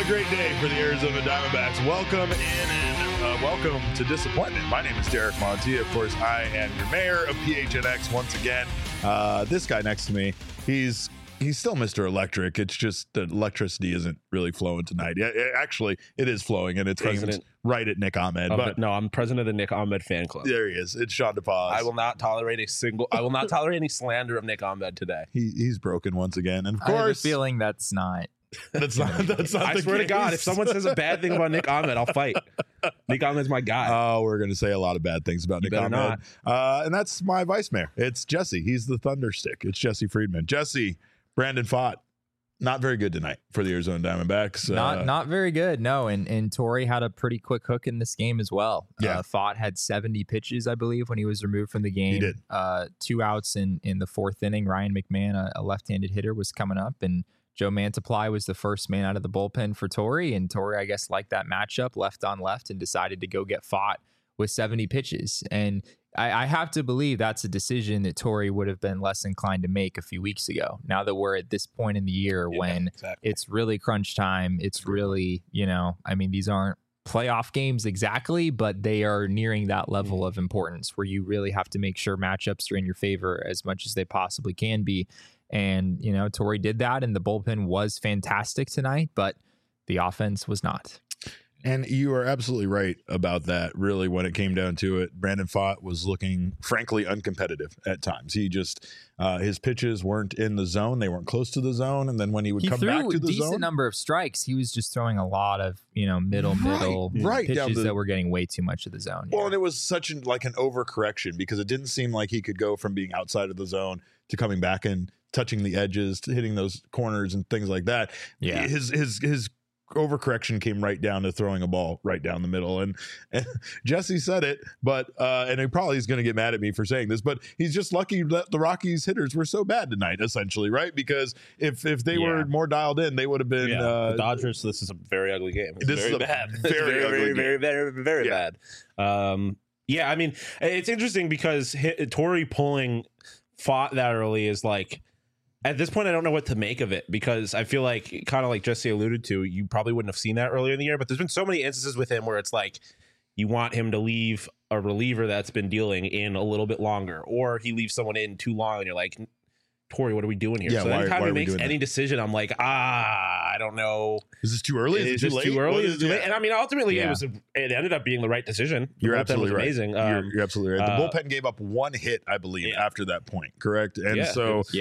great day for the Arizona Diamondbacks. Welcome in and welcome to Disappointment. My name is Derek Monti. Of course, I am your mayor of PHNX once again. This guy next to me, he's still Mr. Electric. It's just the electricity isn't really flowing tonight. Yeah, actually, it is flowing, and it's aimed right at Nick Ahmed. But no, I'm president of the Nick Ahmed fan club. There he is. It's Sean DePaz. I will not tolerate any slander of Nick Ahmed today. He's broken once again, and of I have a course, feeling that's not. That's not. I swear to God, if someone says a bad thing about Nick Ahmed, I'll fight. Nick Ahmed's my guy. Oh, we're going to say a lot of bad things about Nick Ahmed. And that's my vice mayor. It's Jesse. He's the thunderstick. It's Jesse Friedman. Jesse, Brandon Pfaadt, not very good tonight for the Arizona Diamondbacks. Not very good. No, and Torrey had a pretty quick hook in this game as well. Yeah. Pfaadt had 70 pitches, I believe, when he was removed from the game. He did. 2 outs in the fourth inning. Ryan McMahon, a left-handed hitter, was coming up, and Joe Mantiply was the first man out of the bullpen for Torrey, and Torrey, I guess, liked that matchup, left on left, and decided to go get Pfaadt with 70 pitches. And I have to believe that's a decision that Torrey would have been less inclined to make a few weeks ago. Now that we're at this point in the year when it's really crunch time, it's really, these aren't playoff games exactly, but they are nearing that level of importance where you really have to make sure matchups are in your favor as much as they possibly can be. And, Torrey did that, and the bullpen was fantastic tonight, but the offense was not. And you are absolutely right about that. Really, when it came down to it, Brandon Pfaadt was looking, frankly, uncompetitive at times. He just, his pitches weren't in the zone. They weren't close to the zone. And then when he would come back to the zone, he threw a decent number of strikes. He was just throwing a lot of, middle pitches that were getting way too much of the zone. Well, and it was such an overcorrection because it didn't seem like he could go from being outside of the zone to coming back and touching the edges, to hitting those corners and things like that. Yeah. His overcorrection came right down to throwing a ball right down the middle. And Jesse said it, but and he probably is going to get mad at me for saying this, but he's just lucky that the Rockies hitters were so bad tonight, essentially, right? Because if they were more dialed in, they would have been the Dodgers. This is a very ugly game. This is bad. Very bad. It's interesting because Torrey pulling Pfaadt that early is like, at this point, I don't know what to make of it because I feel like, kind of like Jesse alluded to, you probably wouldn't have seen that earlier in the year, but there's been so many instances with him where it's like you want him to leave a reliever that's been dealing in a little bit longer, or he leaves someone in too long and you're like, Torrey, what are we doing here? Yeah, so anytime he makes any that decision, I'm like, I don't know. Is this too early? Is it too early? Is it too late? And I mean, ultimately, it ended up being the right decision. You're absolutely right. Amazing. You're absolutely right. The bullpen gave up one hit, I believe, after that point. Correct. And it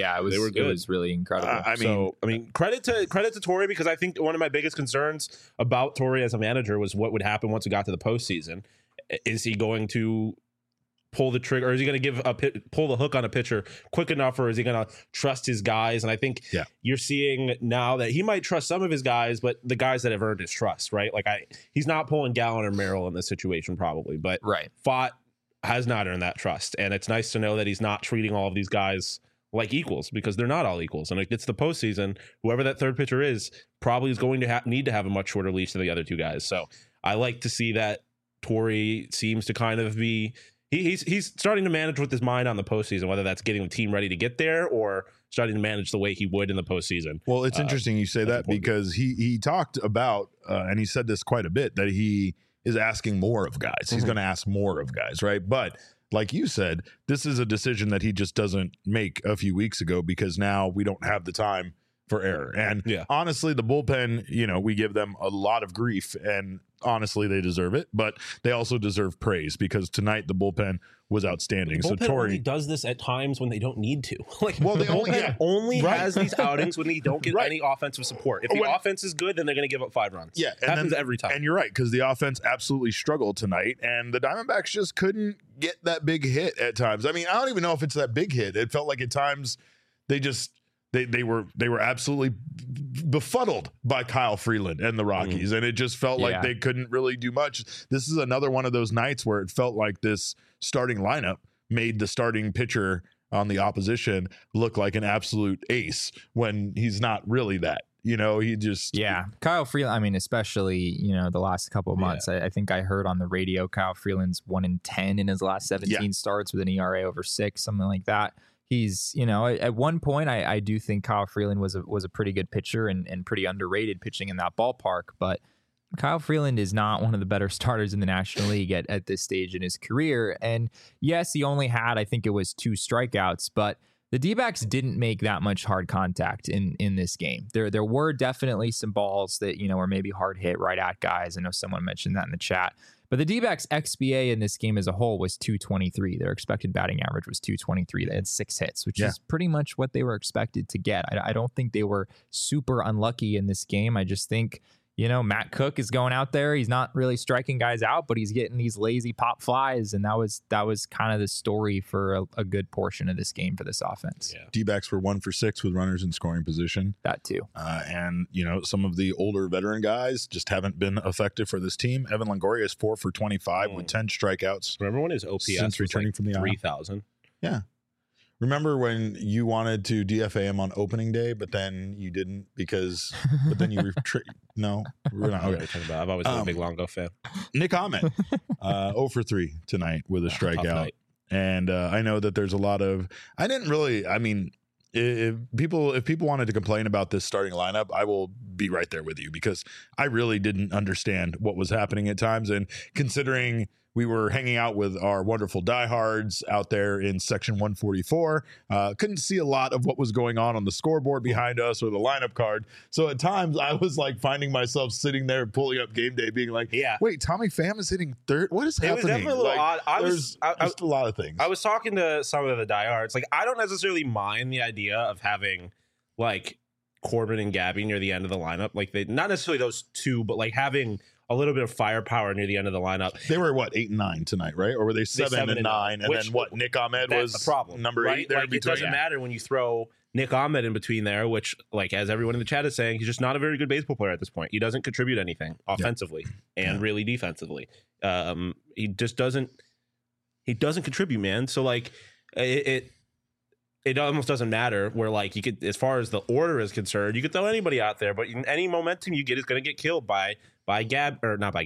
was really incredible. Credit to Torrey, because I think one of my biggest concerns about Torrey as a manager was what would happen once we got to the postseason. Is he going to pull the trigger, or is he going to pull the hook on a pitcher quick enough, or is he going to trust his guys? And I think you're seeing now that he might trust some of his guys, but the guys that have earned his trust, right? Like he's not pulling Gallen or Merrill in this situation probably, but Pfaadt has not earned that trust. And it's nice to know that he's not treating all of these guys like equals, because they're not all equals. And it gets the postseason, whoever that third pitcher is probably is going to need to have a much shorter leash than the other two guys. So I like to see that Torrey seems to kind of be, He's starting to manage with his mind on the postseason, whether that's getting the team ready to get there or starting to manage the way he would in the postseason. Well, it's interesting you say that because he talked about, and he said this quite a bit, that he is asking more of guys. He's going to ask more of guys, right? But like you said, this is a decision that he just doesn't make a few weeks ago because now we don't have the time for error. And honestly, the bullpen, we give them a lot of grief, and honestly, they deserve it, but they also deserve praise because tonight the bullpen was outstanding. The bullpen only does this at times when they don't need to. The only has these outings when they don't get any offensive support. If the offense is good, then they're going to give up 5 runs. Yeah, it happens every time. And you're right, because the offense absolutely struggled tonight, and the Diamondbacks just couldn't get that big hit at times. I mean, I don't even know if it's that big hit. It felt like at times they just they were absolutely befuddled by Kyle Freeland and the Rockies, and it just felt like they couldn't really do much. This is another one of those nights where it felt like this starting lineup made the starting pitcher on the opposition look like an absolute ace when he's not really that. He just... Kyle Freeland, I mean, especially, the last couple of months, I think I heard on the radio Kyle Freeland's 1-10 in his last 17 starts with an ERA over 6, something like that. he's, at one point, I do think Kyle Freeland was a pretty good pitcher and pretty underrated pitching in that ballpark. But Kyle Freeland is not one of the better starters in the National League at this stage in his career. And yes, he only had, I think it was 2 strikeouts, but the D-backs didn't make that much hard contact in this game. There were definitely some balls that, were maybe hard hit right at guys. I know someone mentioned that in the chat. But the D-backs XBA in this game as a whole was 223. Their expected batting average was 223. They had 6 hits, which is pretty much what they were expected to get. I don't think they were super unlucky in this game. I just think, Matt Cook is going out there. He's not really striking guys out, but he's getting these lazy pop flies. And that was kind of the story for a good portion of this game for this offense. Yeah. D-backs were 1 for 6 with runners in scoring position. That too. And, some of the older veteran guys just haven't been effective for this team. Evan Longoria is 4 for 25 with 10 strikeouts. Remember when his OPS since returning from the 3,000? Yeah. Remember when you wanted to DFA him on opening day, but then you didn't but then you no, we're not. Okay. I've always been a big Longo fan. Nick Ahmed, 0 for 3 tonight with a strikeout. And I know that there's a lot of, if people wanted to complain about this starting lineup, I will be right there with you because I really didn't understand what was happening at times. And considering we were hanging out with our wonderful diehards out there in section 144. Couldn't see a lot of what was going on the scoreboard behind us or the lineup card. So at times I was like finding myself sitting there pulling up game day being like, wait, Tommy Pham is hitting third? What is happening? It was definitely a little odd. There's just a lot of things. I was talking to some of the diehards. Like, I don't necessarily mind the idea of having like Corbin and Gabby near the end of the lineup. Like, they not necessarily those two, but like having a little bit of firepower near the end of the lineup. They were 8 and 9 tonight, right? Or were they 7 and 9? And then what? Nick Ahmed was the problem, number 8 there like, in between. It doesn't matter when you throw Nick Ahmed in between there, which, like, as everyone in the chat is saying, he's just not a very good baseball player at this point. He doesn't contribute anything offensively and really defensively. He just doesn't. He doesn't contribute, man. So like it almost doesn't matter where, like, you could, as far as the order is concerned, you could throw anybody out there, but any momentum you get is going to get killed by Nick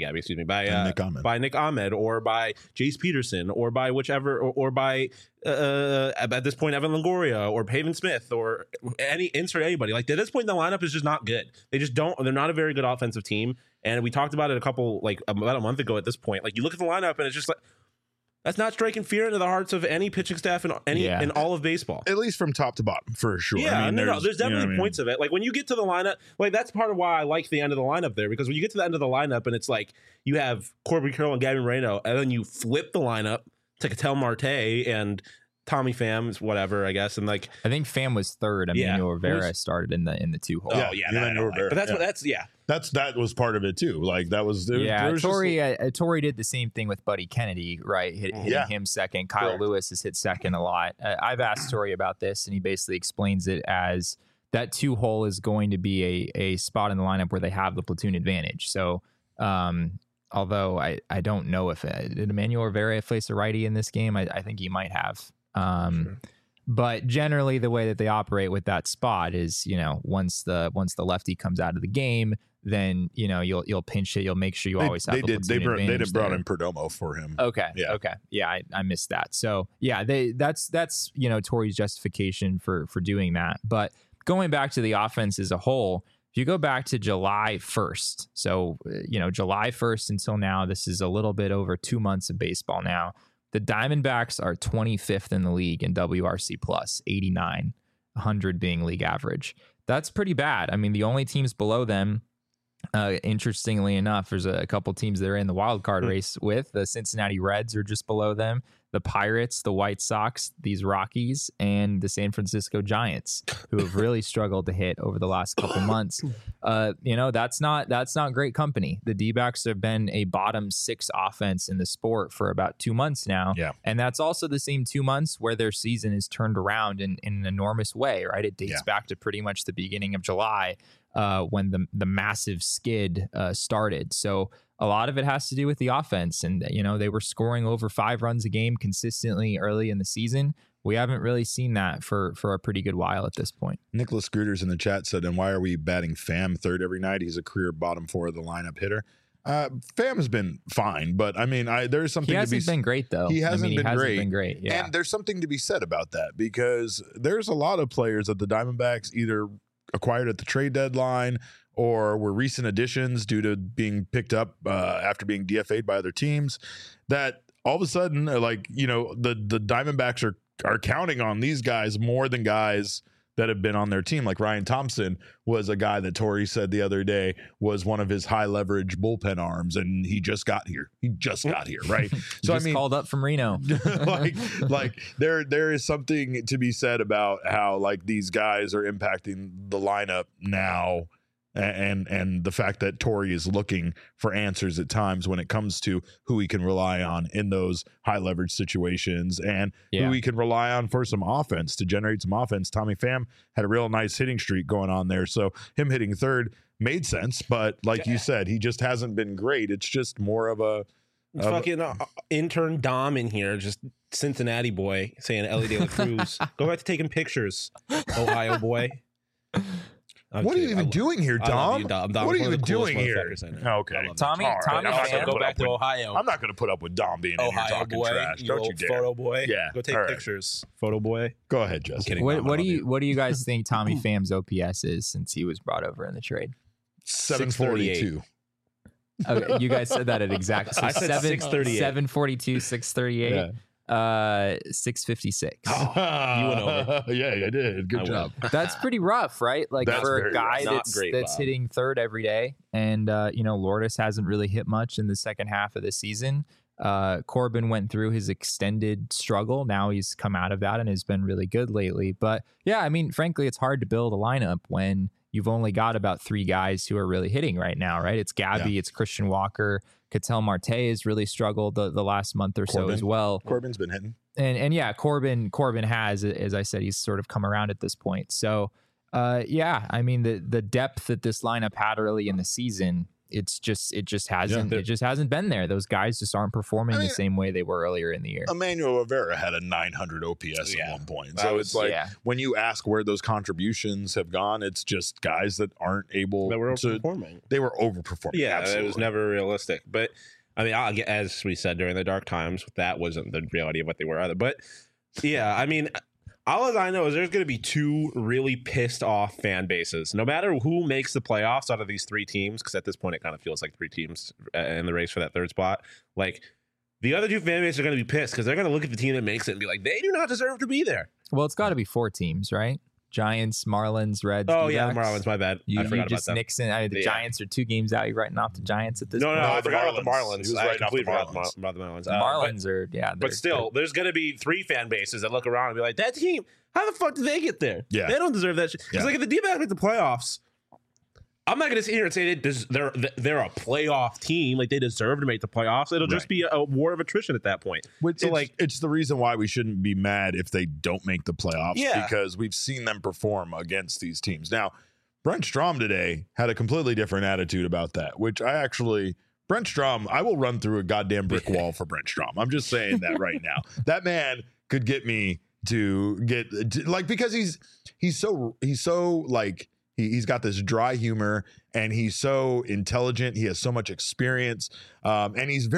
Ahmed or by Jace Peterson or by whichever or by at this point Evan Longoria or Pavin Smith or insert anybody. Like, at this point the lineup is just not good. They're not a very good offensive team, and we talked about it about a month ago at this point. Like, you look at the lineup and it's just like, that's not striking fear into the hearts of any pitching staff in all of baseball. At least from top to bottom, for sure. Yeah, there's definitely points of it. Like, when you get to the lineup, like, that's part of why I like the end of the lineup there, because when you get to the end of the lineup and it's like you have Corbin Carroll and Gabby Moreno, and then you flip the lineup to Ketel Marte and Tommy Pham, whatever, I guess, and like I think Pham was third. Emmanuel Rivera started in the 2 hole. That was part of it too. Like, that was Torrey did the same thing with Buddy Kennedy, right? Hitting him second. Kyle Lewis has hit second a lot. I've asked Torrey about this, and he basically explains it as that 2 hole is going to be a spot in the lineup where they have the platoon advantage. So, although I don't know if did Emmanuel Rivera face a righty in this game, I think he might have. Sure. But generally the way that they operate with that spot is, once the lefty comes out of the game, then, you'll pinch it. You'll make sure you always have the platoon advantage. They did brought in Perdomo for him. Okay. Yeah. Okay. Yeah. I missed that. So yeah, that's Torrey's justification for doing that. But going back to the offense as a whole, if you go back to July 1st, so, July 1st until now, this is a little bit over 2 months of baseball now. The Diamondbacks are 25th in the league in WRC plus, 89, 100 being league average. That's pretty bad. I mean, the only teams below them, interestingly enough, there's a couple teams that are in the wild card race with. The Cincinnati Reds are just below them. The Pirates, the White Sox, these Rockies, and the San Francisco Giants, who have really struggled to hit over the last couple months. That's not great company. The D-backs have been a bottom 6 offense in the sport for about 2 months now. Yeah. And that's also the same 2 months where their season is turned around in an enormous way, right? It dates back to pretty much the beginning of July when the massive skid started. So a lot of it has to do with the offense. And, they were scoring over 5 runs a game consistently early in the season. We haven't really seen that for a pretty good while at this point. Nicholas Scooters in the chat said, and why are we batting Pham third every night? He's a career bottom 4 of the lineup hitter. Pham has been fine, but I mean, there's something He to hasn't been great though. He hasn't been great. Been great. Yeah. And there's something to be said about that because there's a lot of players that the Diamondbacks either acquired at the trade deadline or were recent additions due to being picked up after being DFA'd by other teams that all of a sudden are like, you know, the Diamondbacks are counting on these guys more than guys that have been on their team. Like Ryan Thompson was a guy that Torey said the other day was one of his high leverage bullpen arms, and he just got here. Right? So I mean, called up from Reno. like there is something to be said about how like these guys are impacting the lineup now. And the fact that Torey is looking for answers at times when it comes to who he can rely on in those high leverage situations and who he can rely on for some offense to generate some offense. Tommy Pham had a real nice hitting streak going on there. So him hitting third made sense. But like you said, he just hasn't been great. It's just more of a fucking intern Dom in here, just Cincinnati boy saying Ellie De La Cruz. Go back to taking pictures, Ohio boy. What are you even doing here, Dom? Dom what are you even doing here? Okay, Tommy, go back to Ohio. I'm not going to put up with Dom being in here talking boy, trash. Don't you dare, photo boy. Yeah, go take pictures, photo boy. Go ahead, Justin. What do you guys think Tommy Pham's OPS is since he was brought over in the trade? 742. Okay, you guys said that at exact. So I said 638. 742, 638. Yeah. 656. You went over. Yeah, I did. Good job. That's pretty rough, right? Like That's for a guy rough. that's hitting third every day, and you know, Lourdes hasn't really hit much in the second half of the season. Corbin went through his extended struggle. Now he's come out of that and has been really good lately. But yeah, I mean, frankly, it's hard to build a lineup when you've only got about three guys who are really hitting right now, right? It's Gabby, it's Christian Walker. Ketel Marte has really struggled the last month or so as well. Corbin's been hitting. And yeah, Corbin has, as I said, he's sort of come around at this point. So yeah, I mean the depth that this lineup had early in the season, it just hasn't been there. Those guys just aren't performing the same way they were earlier in the year. Emmanuel Rivera had a 900 OPS at one point. So it's like when you ask where those contributions have gone, it's just guys that aren't able that were overperforming. They were overperforming. Yeah, absolutely. It was never realistic. But I mean, as we said during the dark times, that wasn't the reality of what they were either. But yeah, I mean, all I know is there's going to be two really pissed off fan bases, no matter who makes the playoffs out of these three teams, because at this point it kind of feels like three teams in the race for that third spot. Like, the other two fan bases are going to be pissed because they're going to look at the team that makes it and be like, they do not deserve to be there. Well, it's got to be four teams, right? Giants, Marlins, Reds. Oh, D-backs. yeah, Marlins, my bad. I forgot about them. Nixon. I mean, the Giants are 2 games out. You're writing off the Giants at this point. No, I forgot about the Marlins. He was writing off the Marlins. About the Marlins. The Marlins are, yeah. But still, there's going to be three fan bases that look around and be like, that team, how the fuck did they get there? Yeah. They don't deserve that shit. Because like if the D-backs make the playoffs, I'm not going to sit here and say they're a playoff team. Like they deserve to make the playoffs. It'll just be a war of attrition at that point. So it's the reason why we shouldn't be mad if they don't make the playoffs because we've seen them perform against these teams. Now, Brent Strom today had a completely different attitude about that, which Brent Strom, I will run through a goddamn brick wall for Brent Strom. I'm just saying that right now. That man could get me because he's so like, he's got this dry humor and he's so intelligent. He has so much experience. And he's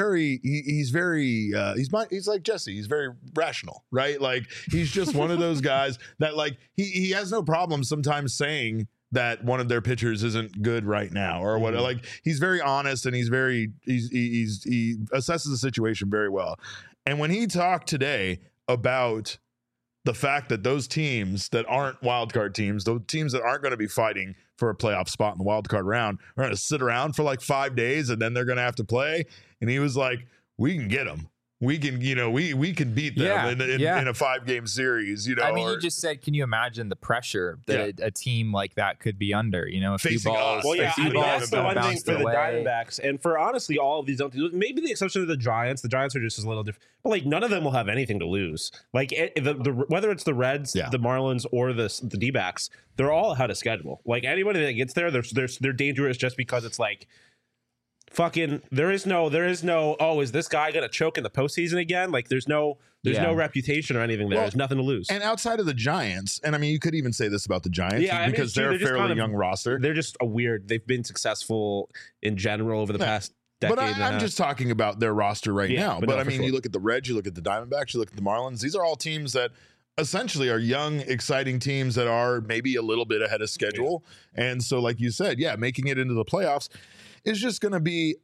like Jesse. He's very rational, right? Like he's just one of those guys that like, he has no problem sometimes saying that one of their pitchers isn't good right now or what. Like he's very honest and he assesses the situation very well. And when he talked today about the fact that those teams that aren't wildcard teams, those teams that aren't going to be fighting for a playoff spot in the wildcard round, are going to sit around for like 5 days and then they're going to have to play. And he was like, we can get them. We can, we can beat them in a 5-game series. I mean, you just said, can you imagine the pressure that a team like that could be under? A few balls. Well, yeah, that's the one thing for the Diamondbacks, and for honestly all of these, maybe the exception of the Giants. The Giants are just a little different, but like none of them will have anything to lose. Like whether it's the Reds, the Marlins, or the D-backs, they're all ahead of schedule. Like anybody that gets there, they're dangerous just because it's like. Fucking there is no is this guy gonna choke in the postseason again? Like there's no reputation or anything there. There's nothing to lose. And outside of the Giants, and I mean you could even say this about the Giants because they're a fairly young roster. They're just they've been successful in general over the past decade. But and a I'm half. just talking about their roster right Yeah, now. but But no, I for mean, sure. you look at the Reds, you look at the Diamondbacks, you look at the Marlins. These are all teams that essentially are young, exciting teams that are maybe a little bit ahead of schedule. And so, like you said, yeah, making it into the playoffs is just going to be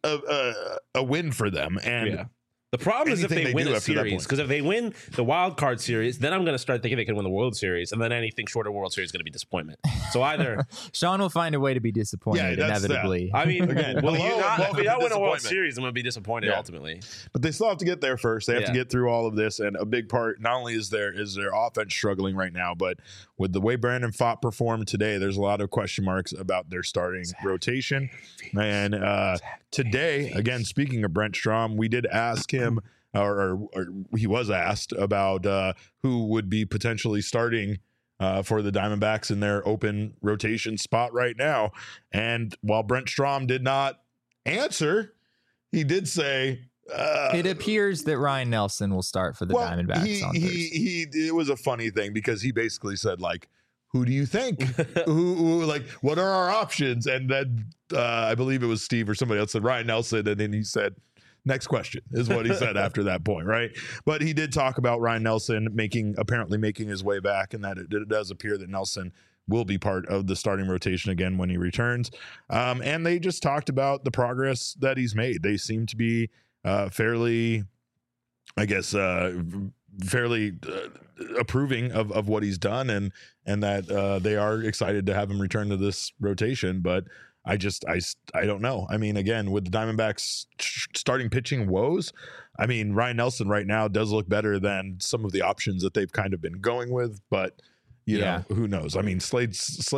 a win for them. And Yeah. The problem is if anything they they win do a after that series, point. because if they win the wild card series, then I'm going to start thinking they can win the World Series, and then anything short of World Series is going to be disappointment. So either, Sean will find a way to be disappointed that's that. inevitably. I mean, Again, will you hello, not? If welcome we to don't win a World disappointment. Series, I'm going to be disappointed Yeah. ultimately. But they still have to get there first. They have to Yeah. get through all of this, and a big part not only is their offense struggling right now, but with the way Brandon Pfaadt performed today, there's a lot of question marks about their starting rotation. And today, again, speaking of Brent Strom, we did ask him, or he was asked about who would be potentially starting for the Diamondbacks in their open rotation spot right now. And while Brent Strom did not answer, he did say it appears that Ryan Nelson will start for the Diamondbacks on Thursday. it was a funny thing because he basically said, like, who do you think? who like, what are our options? And then I believe it was Steve or somebody else said Ryan Nelson, and then he said, next question is what he said after that point, right? But he did talk about Ryan Nelson apparently making his way back, and that it does appear that Nelson will be part of the starting rotation again when he returns. And they just talked about the progress that he's made. They seem to be fairly, I guess, fairly approving of what he's done, and that they are excited to have him return to this rotation. But I don't know. I mean, again, with the Diamondbacks starting pitching woes, I mean, Ryan Nelson right now does look better than some of the options that they've kind of been going with, but you know, who knows? I mean, Slade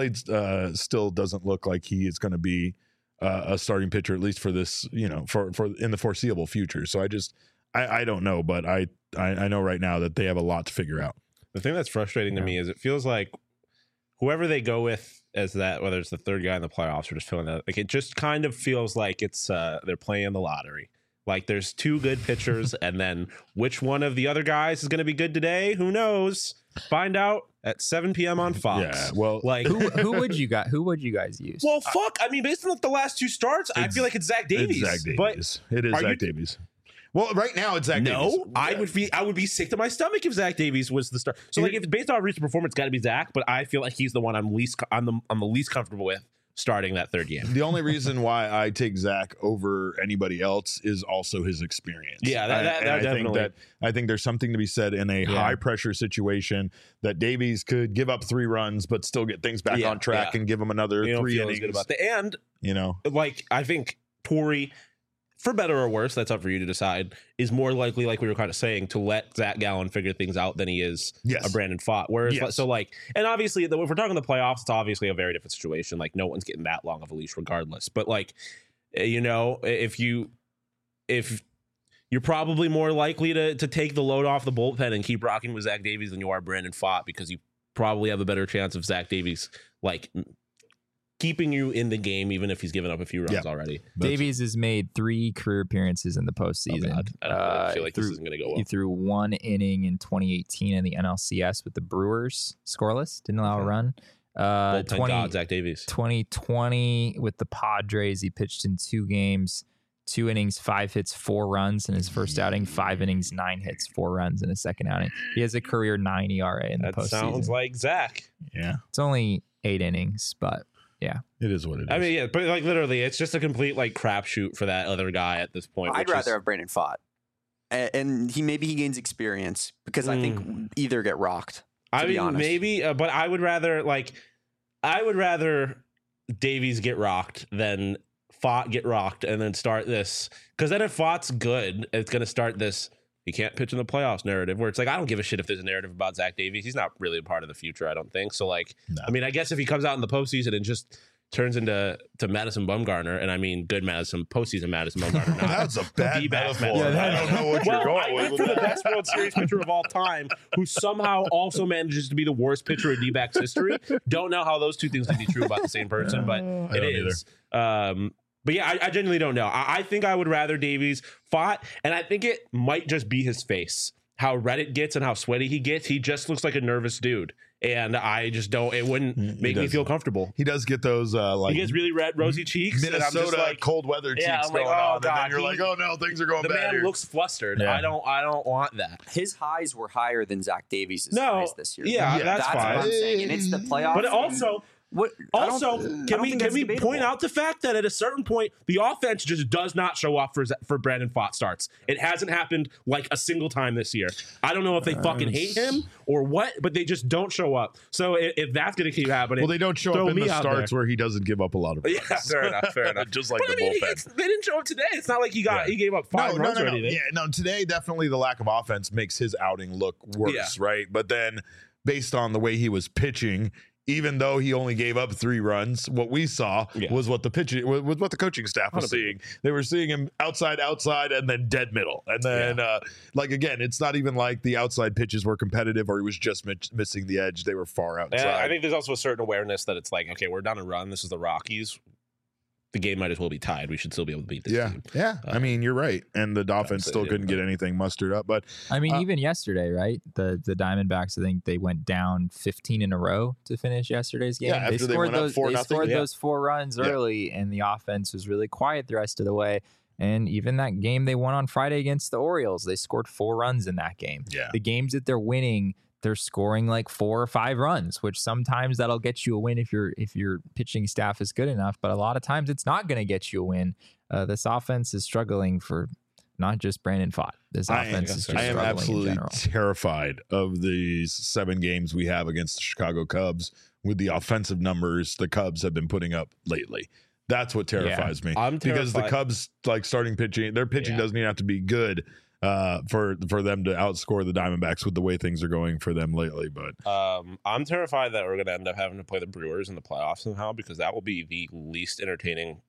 still doesn't look like he is going to be a starting pitcher, at least for this, you know, for in the foreseeable future. So I don't know, but I know right now that they have a lot to figure out. The thing that's frustrating to me is it feels like whoever they go with as that, whether it's the third guy in the playoffs or just filling that, like it just kind of feels like it's they're playing the lottery. Like there's two good pitchers, and then which one of the other guys is going to be good today? Who knows? Find out at 7 p.m. on Fox. Yeah, well, like Who would you guys use? well, fuck. I mean, based on the last two starts, I feel like it's Zach Davies. It's Zach Davies. It is are Zach Davies. Well, right now it's Zach Davies. No, I would be sick to my stomach if Zach Davies was the star. So like, if it's based on recent performance, got to be Zach. But I feel like he's the one I'm the least comfortable with starting that third game. The only reason why I take Zach over anybody else is also his experience. Yeah, that definitely. I think there's something to be said in a high pressure situation that Davies could give up 3 runs but still get things back on track and give him another 3 innings. Good about that. And you know, like I think Torrey, for better or worse, that's up for you to decide, is more likely, like we were kind of saying, to let Zach Gallen figure things out than he is a Brandon Pfaadt. Whereas, so like, and obviously, if we're talking the playoffs, it's obviously a very different situation. Like, no one's getting that long of a leash regardless. But like, you know, if you're probably more likely to take the load off the bullpen and keep rocking with Zach Davies than you are Brandon Pfaadt, because you probably have a better chance of Zach Davies, like, keeping you in the game, even if he's given up a few runs already. Davies has made 3 career appearances in the postseason. I feel like this isn't going to go well. He threw 1 inning in 2018 in the NLCS with the Brewers, scoreless, didn't allow a run. Zach Davies. 2020 with the Padres, he pitched in 2 games, 2 innings, 5 hits, 4 runs in his first outing, 5 innings, 9 hits, 4 runs in his second outing. He has a career 9 ERA in the postseason. That sounds like Zach. Yeah. It's only 8 innings, but yeah. It is what it is. I mean, yeah, but like literally, it's just a complete like crapshoot for that other guy at this point. I'd rather have Brandon Pfaadt, and he gains experience because I think either get rocked. To be honest. Maybe, but I would rather Davies get rocked than Pfaadt get rocked, and then start this, because then if Pfaadt's good, it's going to start this he can't pitch in the playoffs narrative, where it's like, I don't give a shit if there's a narrative about Zach Davies. He's not really a part of the future, I don't think. So, like, I mean, I guess if he comes out in the postseason and just turns into Madison Bumgarner, and I mean good Madison, postseason Madison Bumgarner. That's a bad D-backs metaphor. Madison. I don't know what you're going I went with for the that. best World Series pitcher of all time, who somehow also manages to be the worst pitcher in D-backs history. Don't know how those two things can be true about the same person, but it is. But yeah, I genuinely don't know. I think I would rather Davies Pfaadt, and I think it might just be his face. how red it gets and how sweaty he gets, he just looks like a nervous dude. And I just don't. It wouldn't make me feel comfortable. He does get those like he gets really red, rosy cheeks. Minnesota and I'm just like, cold weather cheeks I'm like, going on, and God, then you're like, oh no, things are going the bad. man here. looks flustered. Yeah. I don't want that. His highs were higher than Zach Davies' No, highs this year. yeah, that's what fine. I'm saying. And it's the playoffs. But also, can we point out the fact that at a certain point the offense just does not show up for Brandon Pfaadt starts. It hasn't happened like a single time this year. I don't know if they fucking hate him or what, but they just don't show up. So if that's going to keep happening, well, they don't show up in the starts where he doesn't give up a lot of runs. Yeah, fair enough. Just like the bullpen. They didn't show up today. It's not like he gave up 5 runs or anything. Yeah, no. Today, definitely the lack of offense makes his outing look worse, right? But then, based on the way he was pitching, even though he only gave up 3 runs, what we saw was what the coaching staff was 100%. Seeing. They were seeing him outside, and then dead middle. And then, again, it's not even like the outside pitches were competitive or he was just missing the edge. They were far outside. And I think there's also a certain awareness that it's like, okay, we're down a run. This is the Rockies. The game might as well be tied. We should still be able to beat this team. Yeah. I mean, you're right. And the Dolphins still couldn't get anything mustered up. But I mean, even yesterday, right? The Diamondbacks, I think they went down 15 in a row to finish yesterday's game. Yeah, after they went up 4-0. They scored those 4 runs early, and the offense was really quiet the rest of the way. And even that game they won on Friday against the Orioles, they scored 4 runs in that game. Yeah. The games that they're winning, they're scoring like 4 or 5 runs, which sometimes that'll get you a win if your pitching staff is good enough. But a lot of times it's not going to get you a win. This offense is struggling for not just Brandon Pfaadt. This offense is just struggling in general. I am absolutely terrified of these 7 games we have against the Chicago Cubs with the offensive numbers the Cubs have been putting up lately. That's what terrifies me. I'm terrified. Because the Cubs, like starting pitching, their pitching doesn't even have to be good for them to outscore the Diamondbacks with the way things are going for them lately. But I'm terrified that we're going to end up having to play the Brewers in the playoffs somehow, because that will be the least entertaining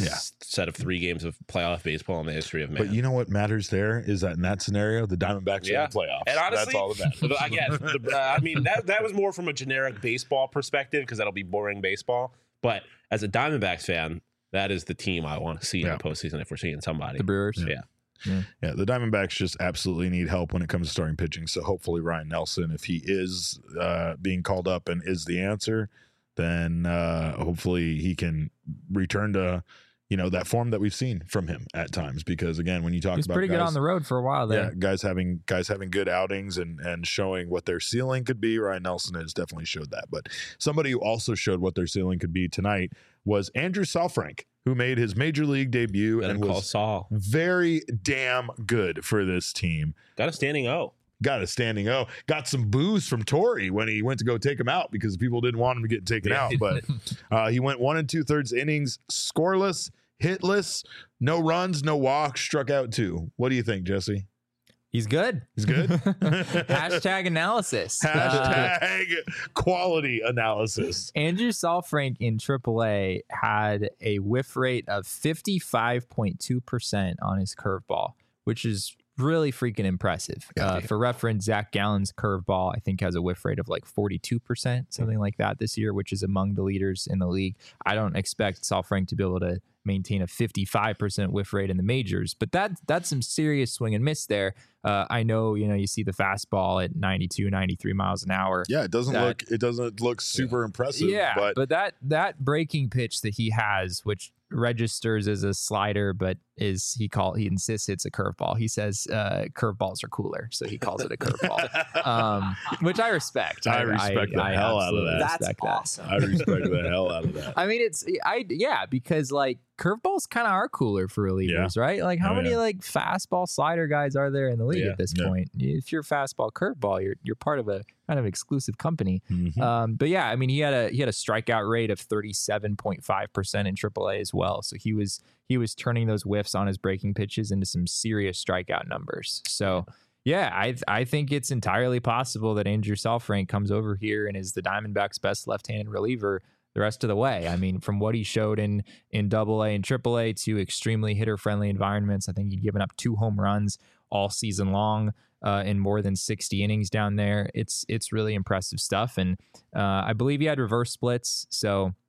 set of 3 games of playoff baseball in the history of man. But you know what matters there is that in that scenario, the Diamondbacks are in the playoffs. And honestly, that's all that matters. Again, I mean, that was more from a generic baseball perspective, because that'll be boring baseball. But as a Diamondbacks fan, that is the team I want to see in the postseason if we're seeing somebody. The Brewers? Yeah, the Diamondbacks just absolutely need help when it comes to starting pitching. So hopefully Ryan Nelson, if he is being called up and is the answer, then hopefully he can return to that form that we've seen from him at times. Because again, when you talk He's about pretty good on the road for a while there. Yeah, guys having good outings and showing what their ceiling could be. Ryan Nelson has definitely showed that. But somebody who also showed what their ceiling could be tonight was Andrew Saalfrank, who made his major league debut and was very damn good for this team. Got a standing O. Got some boos from Torrey when he went to go take him out because people didn't want him to get taken out. But he went 1 2/3 innings, scoreless, hitless, no runs, no walks, struck out 2. What do you think, Jesse? He's good. Hashtag analysis. Hashtag quality analysis. Andrew Saalfrank in AAA had a whiff rate of 55.2% on his curveball, which is really freaking impressive. For reference, Zach Gallen's curveball, I think, has a whiff rate of like 42%, something like that this year, which is among the leaders in the league. I don't expect Saalfrank to be able to maintain a 55% whiff rate in the majors, but that's some serious swing and miss there. I know, you see the fastball at 92, 93 miles an hour. Yeah, it doesn't look super impressive. Yeah, but that breaking pitch that he has, which registers as a slider, but he insists it's a curveball. He says curveballs are cooler, so he calls it a curveball, which I respect. I respect the hell out of that. That's awesome. I respect the hell out of that. I mean, because like curveballs kind of are cooler for relievers, right? Like how many like fastball slider guys are there in the league at this point? If you're fastball curveball, you're part of a kind of exclusive company. Mm-hmm. But yeah, I mean, he had a strikeout rate of 37.5% in AAA as well. So he was turning those whiffs on his breaking pitches into some serious strikeout numbers. So yeah, I think it's entirely possible that Andrew Saalfrank comes over here and is the Diamondbacks' best left-handed reliever the rest of the way. I mean, from what he showed in AA and AAA to extremely hitter-friendly environments, I think he'd given up 2 home runs all season long in more than 60 innings down there. It's really impressive stuff. And I believe he had reverse splits. So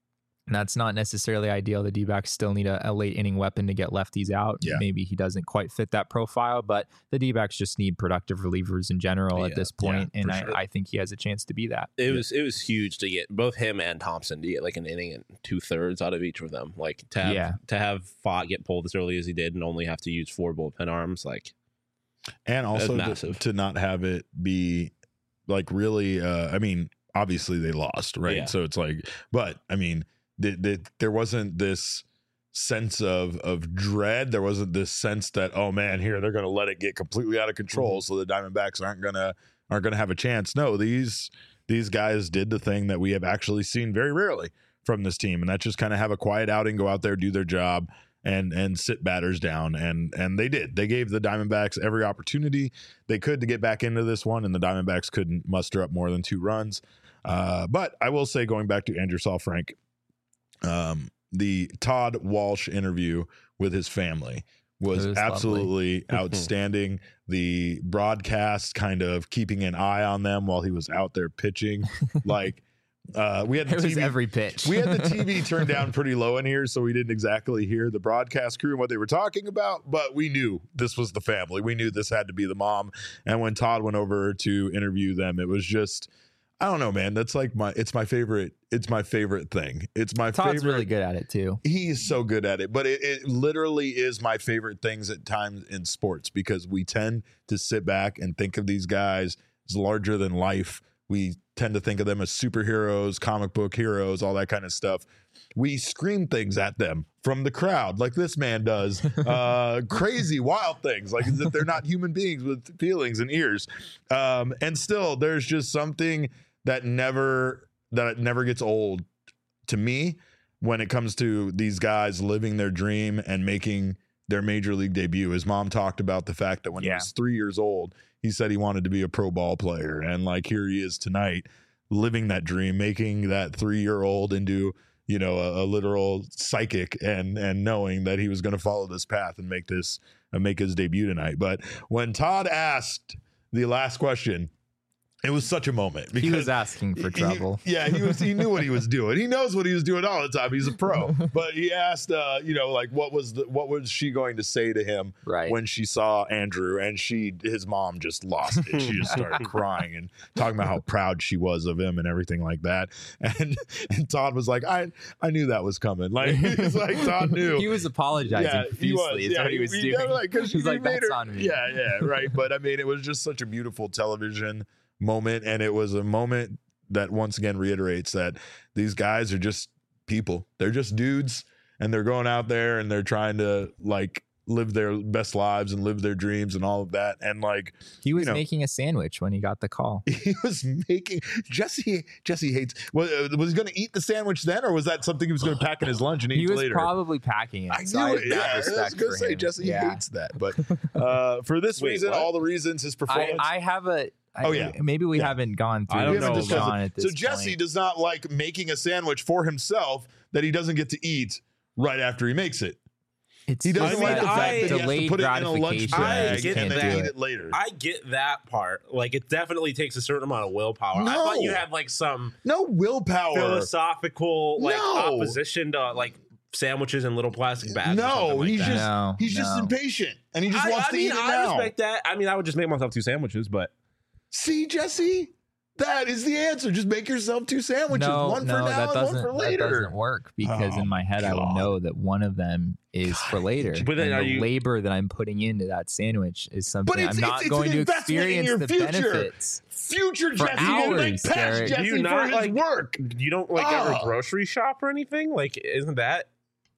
And that's not necessarily ideal. The D-backs still need a late inning weapon to get lefties out. Yeah. Maybe he doesn't quite fit that profile, but the D-backs just need productive relievers in general at this point, and I think he has a chance to be that. It was huge to get both him and Thompson to get like an inning and 2/3 out of each of them. Like to have Fott get pulled as early as he did and only have to use 4 bullpen arms, like, and also massive. to not have it be like really. I mean, obviously they lost, right? Yeah. So it's like, but I mean. There wasn't this sense of dread. There wasn't this sense that, oh man, here they're going to let it get completely out of control, so the Diamondbacks aren't gonna have a chance. No, these guys did the thing that we have actually seen very rarely from this team, and that's just kind of have a quiet outing, go out there, do their job, and sit batters down, and they did. They gave the Diamondbacks every opportunity they could to get back into this one, and the Diamondbacks couldn't muster up more than 2 runs. But I will say, going back to Andrew Saalfrank, the Todd Walsh interview with his family was absolutely outstanding. The broadcast kind of keeping an eye on them while he was out there pitching, like we had the TV, every pitch. We had the TV turned down pretty low in here, so we didn't exactly hear the broadcast crew and what they were talking about, but we knew this was the family. We knew this had to be the mom. And when Todd went over to interview them, it was just, I don't know, man. That's like it's my favorite thing. It's my Todd's favorite. really good at it too. He's so good at it, but it literally is my favorite things at times in sports, because we tend to sit back and think of these guys as larger than life. We tend to think of them as superheroes, comic book heroes, all that kind of stuff. We scream things at them from the crowd like this man does, crazy, wild things, like as if they're not human beings with feelings and ears. And still, there's just something that never gets old to me when it comes to these guys living their dream and making their major league debut. His mom talked about the fact that when he was 3 years old, he said he wanted to be a pro ball player. And like, here he is tonight living that dream, making that 3-year-old into, you know, a literal psychic, and knowing that he was going to follow this path and make his debut tonight. But when Todd asked the last question, it was such a moment, because he was asking for trouble. He knew what he was doing. He knows what he was doing all the time. He's a pro. But he asked, like, what was she going to say to him when she saw Andrew? And his mom just lost it. She just started crying and talking about how proud she was of him and everything like that. And Todd was like, I knew that was coming. Like, it's like Todd knew. He was apologizing profusely. Is what he was doing. He's like, that's on me. Yeah, right. But I mean, it was just such a beautiful television moment, and it was a moment that once again reiterates that these guys are just people. They're just dudes, and they're going out there and they're trying to like live their best lives and live their dreams and all of that. And like, he was making a sandwich when he got the call. He was making Jesse hates. Was he going to eat the sandwich then, or was that something he was going to pack in his lunch and eat later? He was probably packing it. I knew it. I was going to say Jesse hates that, but for this reason, all the reasons, his performance. I have a. Maybe we haven't gone through. I don't know. John at this so Jesse point. does not like making a sandwich for himself that he doesn't get to eat right after he makes it. He doesn't like the fact that he has to put it in a lunch bag and then eat it later. I get that part. Like, it definitely takes a certain amount of willpower. I thought you had like some willpower, philosophical opposition to like sandwiches in little plastic bags. No, he's just impatient, and he just wants to eat it now. I respect that. I mean, I would just make myself 2 sandwiches, but see, Jesse, that is the answer. Just make yourself 2 sandwiches, one for now and one for later. That doesn't work, because in my head I will know that one of them is for later. But then the labor that I'm putting into that sandwich is something I'm not going to experience the benefits. Future for Jesse, hours, past Jesse you not for his work. You don't like ever grocery shop or anything? Like, isn't that?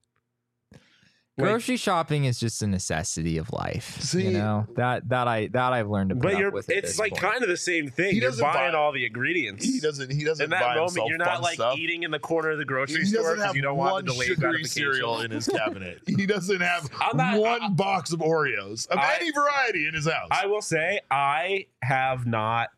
Grocery shopping is just a necessity of life. See, you know that I've learned to put up with. It's like kind of the same thing. You're buying all the ingredients. He doesn't. In that moment, you're not like eating in the corner of the grocery store because you don't want the delayed gratification. Cereal in his cabinet. He doesn't have one box of Oreos of any variety in his house. I will say I haven't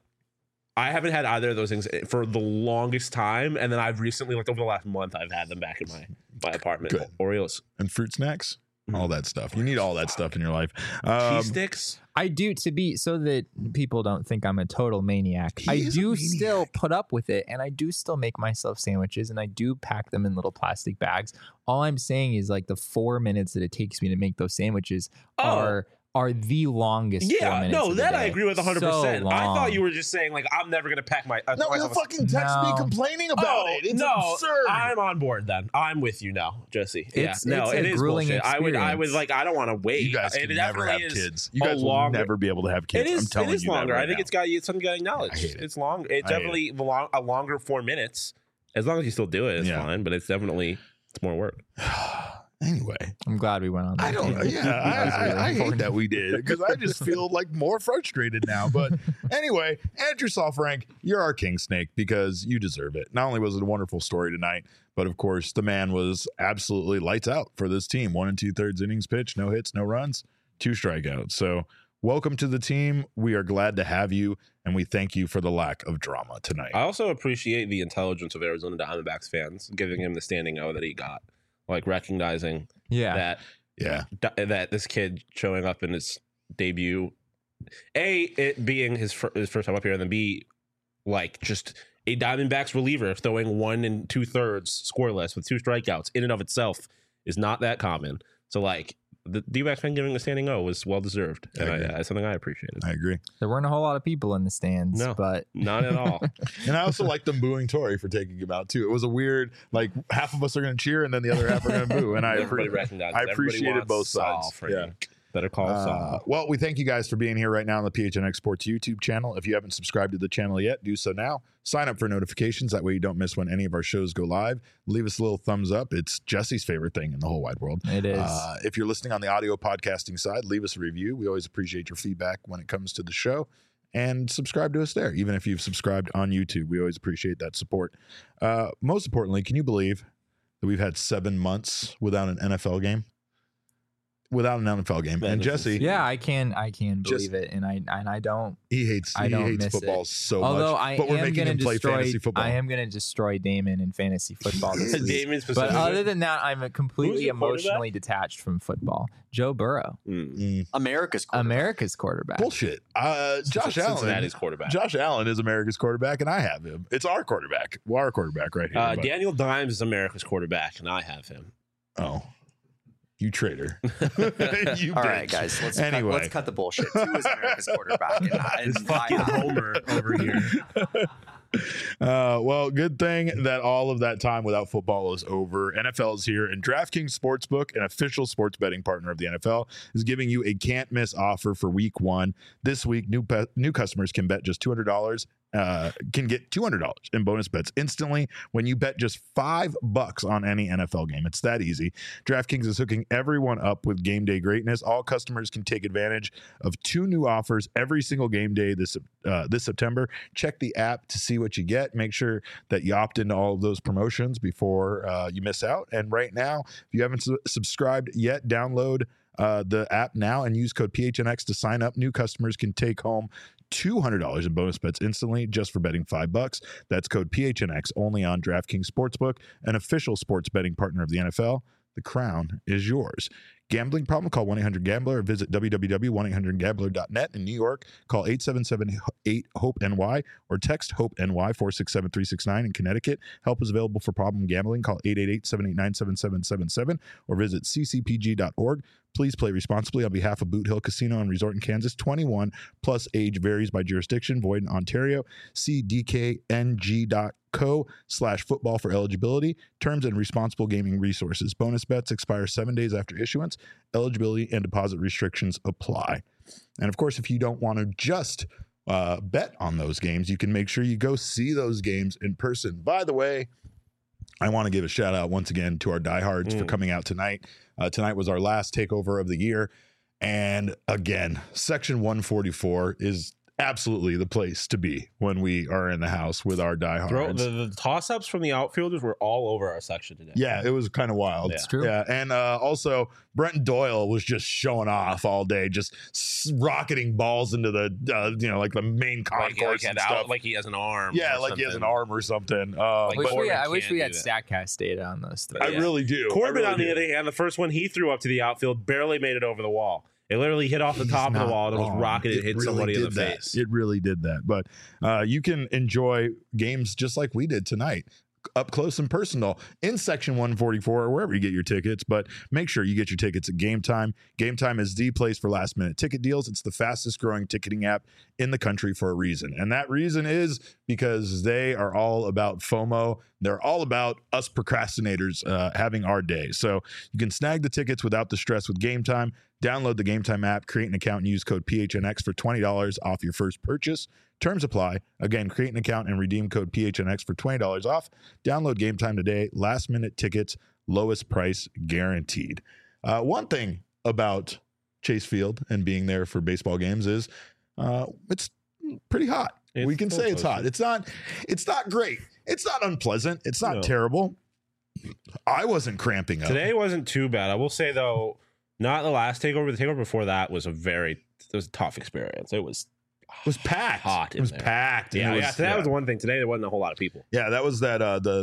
had either of those things for the longest time, and then I've recently, like over the last month, I've had them back in my apartment. Good. Oreos and fruit snacks. all that stuff. You need all that stuff in your life. Cheese sticks. I do, to be so that people don't think I'm a total maniac. He I is a do maniac. still put up with it, and I do still make myself sandwiches, and I do pack them in little plastic bags. All I'm saying is like the 4 minutes that it takes me to make those sandwiches are the longest. 4 minutes no, of the that I day. agree with 100%. So I thought long. you were just saying like I'm never gonna pack my. No, you'll fucking text me No. complaining about it. It's absurd. I'm on board then. I'm with you now, Jesse. It's no, a it is grueling bullshit. I would experience. like. I don't want to wait. You guys It can never have definitely is kids. You a guys will longer- never be able to have kids. It is. I'm telling It is you longer. that right I think now. it's got something got acknowledged. I hate it. It's long. It's I hate definitely a longer 4 minutes. As long as you still do it, it's Yeah. fine. But it's more work. Anyway, I'm glad we went on that. I don't know. tangent. Yeah, That was really I hate important. that we did because I just feel like more frustrated now. But anyway, Andrew Sofrank, you're our king snake because you deserve it. Not only was it a wonderful story tonight, but of course, the man was absolutely lights out for this team. 1 2/3 innings pitched, no hits, no runs, 2 strikeouts. So welcome to the team. We are glad to have you, and we thank you for the lack of drama tonight. I also appreciate the intelligence of Arizona Diamondbacks fans giving him the standing O that he got, like recognizing Yeah. that Yeah. that this kid showing up in his debut, it being his first time up here, and then B, like just a Diamondbacks reliever throwing 1 2/3 scoreless with 2 strikeouts in and of itself is not that common. So like the D-backs fan giving a standing O was well deserved, I and agree. that's something I appreciated. I agree. There weren't a whole lot of people in the stands, No. but Not at all. And I also like them booing Tori for taking him out too. It was a weird, like half of us are going to cheer and then the other half are going to boo. And Everybody recognizes. I Everybody appreciated wants both Saul, sides. Frank. Yeah. Better call Saul. Well, we thank you guys for being here right now on the PHNX Sports YouTube channel. If you haven't subscribed to the channel yet, do so now. Sign up for notifications. That way you don't miss when any of our shows go live. Leave us a little thumbs up. It's Jesse's favorite thing in the whole wide world. it is. If you're listening on the audio podcasting side, leave us a review. We always appreciate your feedback when it comes to the show. And subscribe to us there. Even if you've subscribed on YouTube, we always appreciate that support. Most importantly, can you believe that we've had 7 months without an NFL game? Without an NFL game. Man, And this is- Jesse, yeah, I can Just- believe it, and I don't. he hates I don't miss football it. so Although much. I But we're am making going him to play destroy. fantasy football. I am going to destroy Damon in fantasy football this week. Damon But specifically. other than that, I'm completely your quarterback? emotionally detached from football. Joe Burrow, America's quarterback. America's quarterback. Bullshit. Josh Allen. Cincinnati's quarterback. Josh Allen is America's quarterback, and I have him. It's our quarterback. Well, our quarterback right here. but- Daniel Dimes is America's quarterback, and I have him. oh, you traitor. you All right, bitch. guys, Anyway. let's cut the bullshit. 2 is America's quarterback. And Fucking Homer over here. Well, good thing that all of that time without football is over. NFL is here, and DraftKings Sportsbook, an official sports betting partner of the NFL, is giving you a can't miss offer for Week 1. This week, new customers can bet just $200. Can get $200 in bonus bets instantly when you bet just $5 on any NFL game. It's that easy. DraftKings is hooking everyone up with game day greatness. All customers can take advantage of 2 new offers every single game day this September. Check the app to see what you get. Make sure that you opt into all of those promotions before you miss out. And right now, if you haven't subscribed yet, download the app now and use code PHNX to sign up. New customers can take home $200 in bonus bets instantly just for betting $5. That's code PHNX only on DraftKings Sportsbook, an official sports betting partner of the NFL. The crown is yours. Gambling problem? Call 1-800-GAMBLER or visit www.1800gambler.net. In New York, call 877-8-HOPE-NY or text HOPE-NY 467-369. In Connecticut, help is available for problem gambling. Call 888-789-7777 or visit ccpg.org. Please play responsibly on behalf of Boot Hill Casino and Resort in Kansas. 21 plus age varies by jurisdiction. Void in Ontario. See dkng.co/football for eligibility, terms, and responsible gaming resources. Bonus bets expire 7 days after issuance. Eligibility and deposit restrictions apply. And of course, if you don't want to just bet on those games, you can make sure you go see those games in person. By the way, I want to give a shout out once again to our diehards for coming out tonight. Tonight was our last takeover of the year. And again, Section 144 is absolutely the place to be when we are in the house with our diehards. The toss-ups from the outfielders were all over our section today. Yeah, it was kind of wild. It's true. Yeah, and also Brenton Doyle was just showing off all day, just rocketing balls into the like the main concourse and stuff. Like he has an arm. Yeah, or like he has an something. arm or something. Like, I wish we had do StatCast data on those three. I really do. Corbin, I really on the do. other hand, the first one he threw up to the outfield barely made it over the wall. It literally hit off the He's top of the not wall and it was wrong. rocketed and hit really somebody in the did that. face. It really did that. But you can enjoy games just like we did tonight, up close and personal in section 144 or wherever you get your tickets. But make sure you get your tickets at Game Time. Game Time is the place for last minute ticket deals. It's the fastest growing ticketing app in the country for a reason. And that reason is because they are all about FOMO. They're all about us procrastinators having our day. So you can snag the tickets without the stress with Game Time. Download the Game Time app, create an account, and use code PHNX for $20 off your first purchase. Terms apply. Again, create an account and redeem code PHNX for $20 off. Download Game Time today. Last minute tickets, lowest price guaranteed. One thing about Chase Field and being there for baseball games is it's pretty hot. We can say it's hot. It's not great. It's not unpleasant. It's not terrible. I wasn't cramping up. Today wasn't too bad. I will say, though, not the last takeover. The takeover before that was a tough experience. It was packed. Hot. It was packed. Yeah, It was, That was the one thing. Today there wasn't a whole lot of people. Yeah, that was that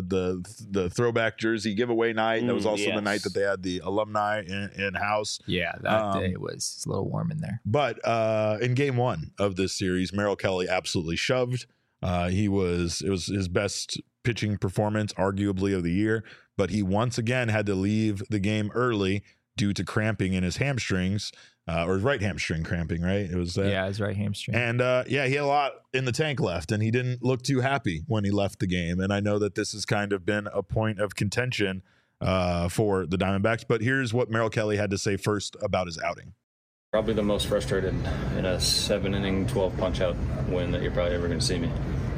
the throwback jersey giveaway night. That was also the yes. night that they had the alumni in house. Yeah, that day was a little warm in there. But in game one of this series, Merrill Kelly absolutely shoved. It was his best pitching performance, arguably, of the year. But he once again had to leave the game early due to cramping in his hamstrings, or his right hamstring cramping, right? It was his right hamstring. And he had a lot in the tank left, and he didn't look too happy when he left the game. And I know that this has kind of been a point of contention for the Diamondbacks. But here's what Merrill Kelly had to say first about his outing. Probably the most frustrated in a 7-inning, 12 punch-out win that you're probably ever going to see me.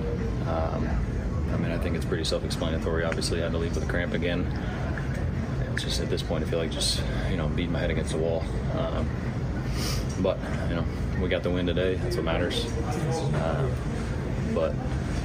I think it's pretty self-explanatory. Obviously, I had to leave with a cramp again. It's just at this point, I feel like just beating my head against the wall. But we got the win today. That's what matters. But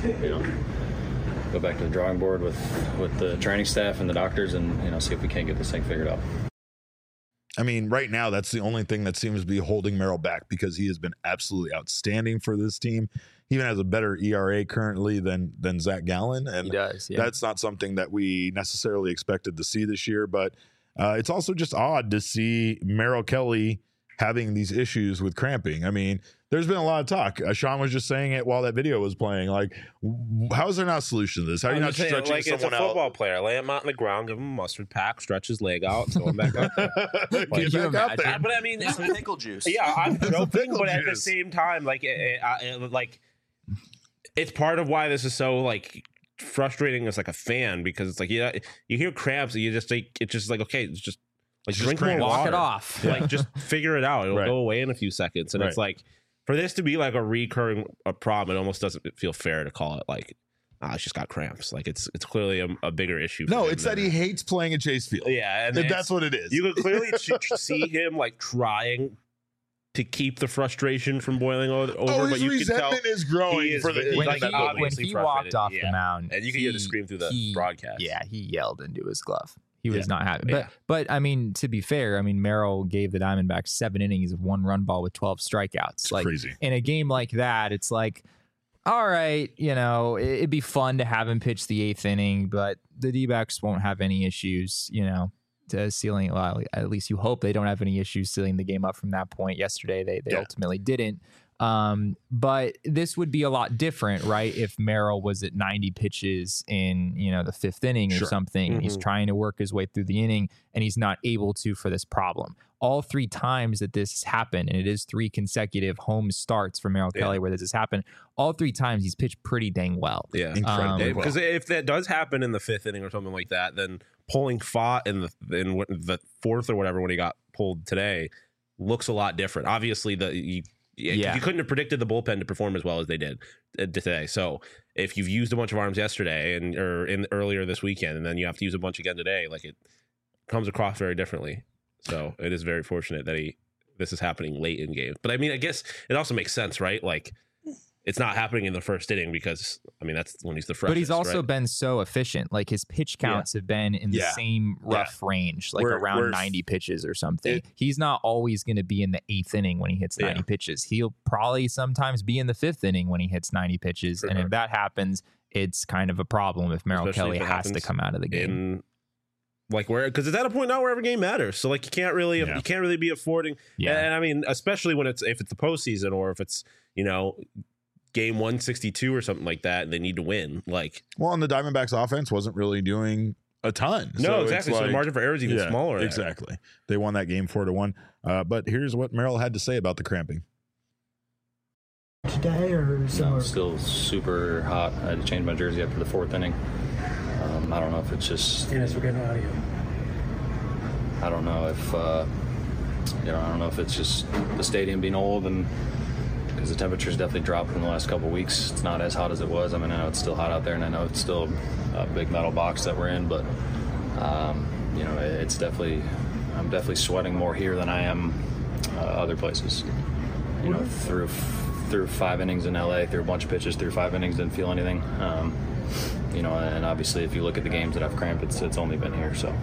go back to the drawing board with the training staff and the doctors, and see if we can't get this thing figured out. I mean, right now, that's the only thing that seems to be holding Merrill back, because he has been absolutely outstanding for this team. He even has a better ERA currently than Zach Gallen. And he does, yeah. That's not something that we necessarily expected to see this year. But it's also just odd to see Merrill Kelly having these issues with cramping. I mean, there's been a lot of talk. Sean was just saying it while that video was playing. Like, how is there not a solution to this? How are you not stretching like someone it's a football player. Lay him out on the ground, give him a mustard pack, stretch his leg out, and going back out there. Get back out there. But I mean, It's some pickle juice. yeah, I'm joking, pickle but at the juice. same time, it's part of why this is so frustrating as a fan, because it's you hear cramps and you just it's just okay, it's just drink more cramps. water. Walk it off. Just figure it out. It'll Right. go away in a few seconds. And it's for this to be a recurring problem, it almost doesn't feel fair to call it it's just got cramps. It's clearly a bigger issue. No, for him it's that than he hates playing at Chase Field. Yeah, and That's what it is. You could clearly see him trying to keep the frustration from boiling over, his but you can tell resentment is growing he is for the really- heat when of that building. obviously he walked frustrated. off Yeah. the mound, And you could hear the scream through the broadcast. Yeah, he yelled into his glove. He was Yeah. not happy. Yeah. But I mean, to be fair, Merrill gave the Diamondbacks 7 innings of 1 run ball with 12 strikeouts. It's crazy. In a game like that, it's all right, it'd be fun to have him pitch the 8th inning, but the D-backs won't have any issues, to sealing. Well, at least you hope they don't have any issues sealing the game up from that point. Yesterday, they ultimately didn't. But this would be a lot different, right? If Merrill was at 90 pitches in, the 5th inning or something, and he's trying to work his way through the inning and he's not able to for this problem. All 3 times that this has happened, and it is 3 consecutive home starts for Merrill Kelly where this has happened, all 3 times he's pitched pretty dang well. Yeah, Incredibly well. Because if that does happen in the 5th inning or something like that, then pulling Fott in the 4th or whatever when he got pulled today looks a lot different. Obviously, you couldn't have predicted the bullpen to perform as well as they did today. So if you've used a bunch of arms yesterday or earlier this weekend, and then you have to use a bunch again today, it comes across very differently. So it is very fortunate that this is happening late in games. But I mean, I guess it also makes sense, right? it's not happening in the first inning because, I mean, that's when he's the freshest. But he's also right? been so efficient. Like his pitch counts have been in the same rough range, like around 90 pitches or something. He's not always going to be in the 8th inning when he hits 90 pitches. He'll probably sometimes be in the 5th inning when he hits 90 pitches. And if that happens, it's kind of a problem if Merrill Kelly has to come out of the game. Like where, because it's at a point now where every game matters. So like you can't really be affording. Yeah. And I mean, especially when if it's the postseason or if it's, you know, game 162 or something like that, and they need to win. Like, well, and the Diamondbacks offense wasn't really doing a ton. No, exactly. So the margin for error is even smaller. Exactly. They won that game 4-1. But here's what Merrill had to say about the cramping. Today or somewhere? Still super hot. I had to change my jersey after the 4th inning. I don't know if it's just. Dennis, we're getting audio. I don't know if I don't know if it's just the stadium being old and because the temperature's definitely dropped in the last couple of weeks. It's not as hot as it was. I mean, I know it's still hot out there, and I know it's still a big metal box that we're in, but you know, it's definitely. I'm definitely sweating more here than I am other places. You know, through 5 innings in LA, through a bunch of pitches, through 5 innings, didn't feel anything. You know, and obviously, if you look at the games that I've cramped, it's only been here. So,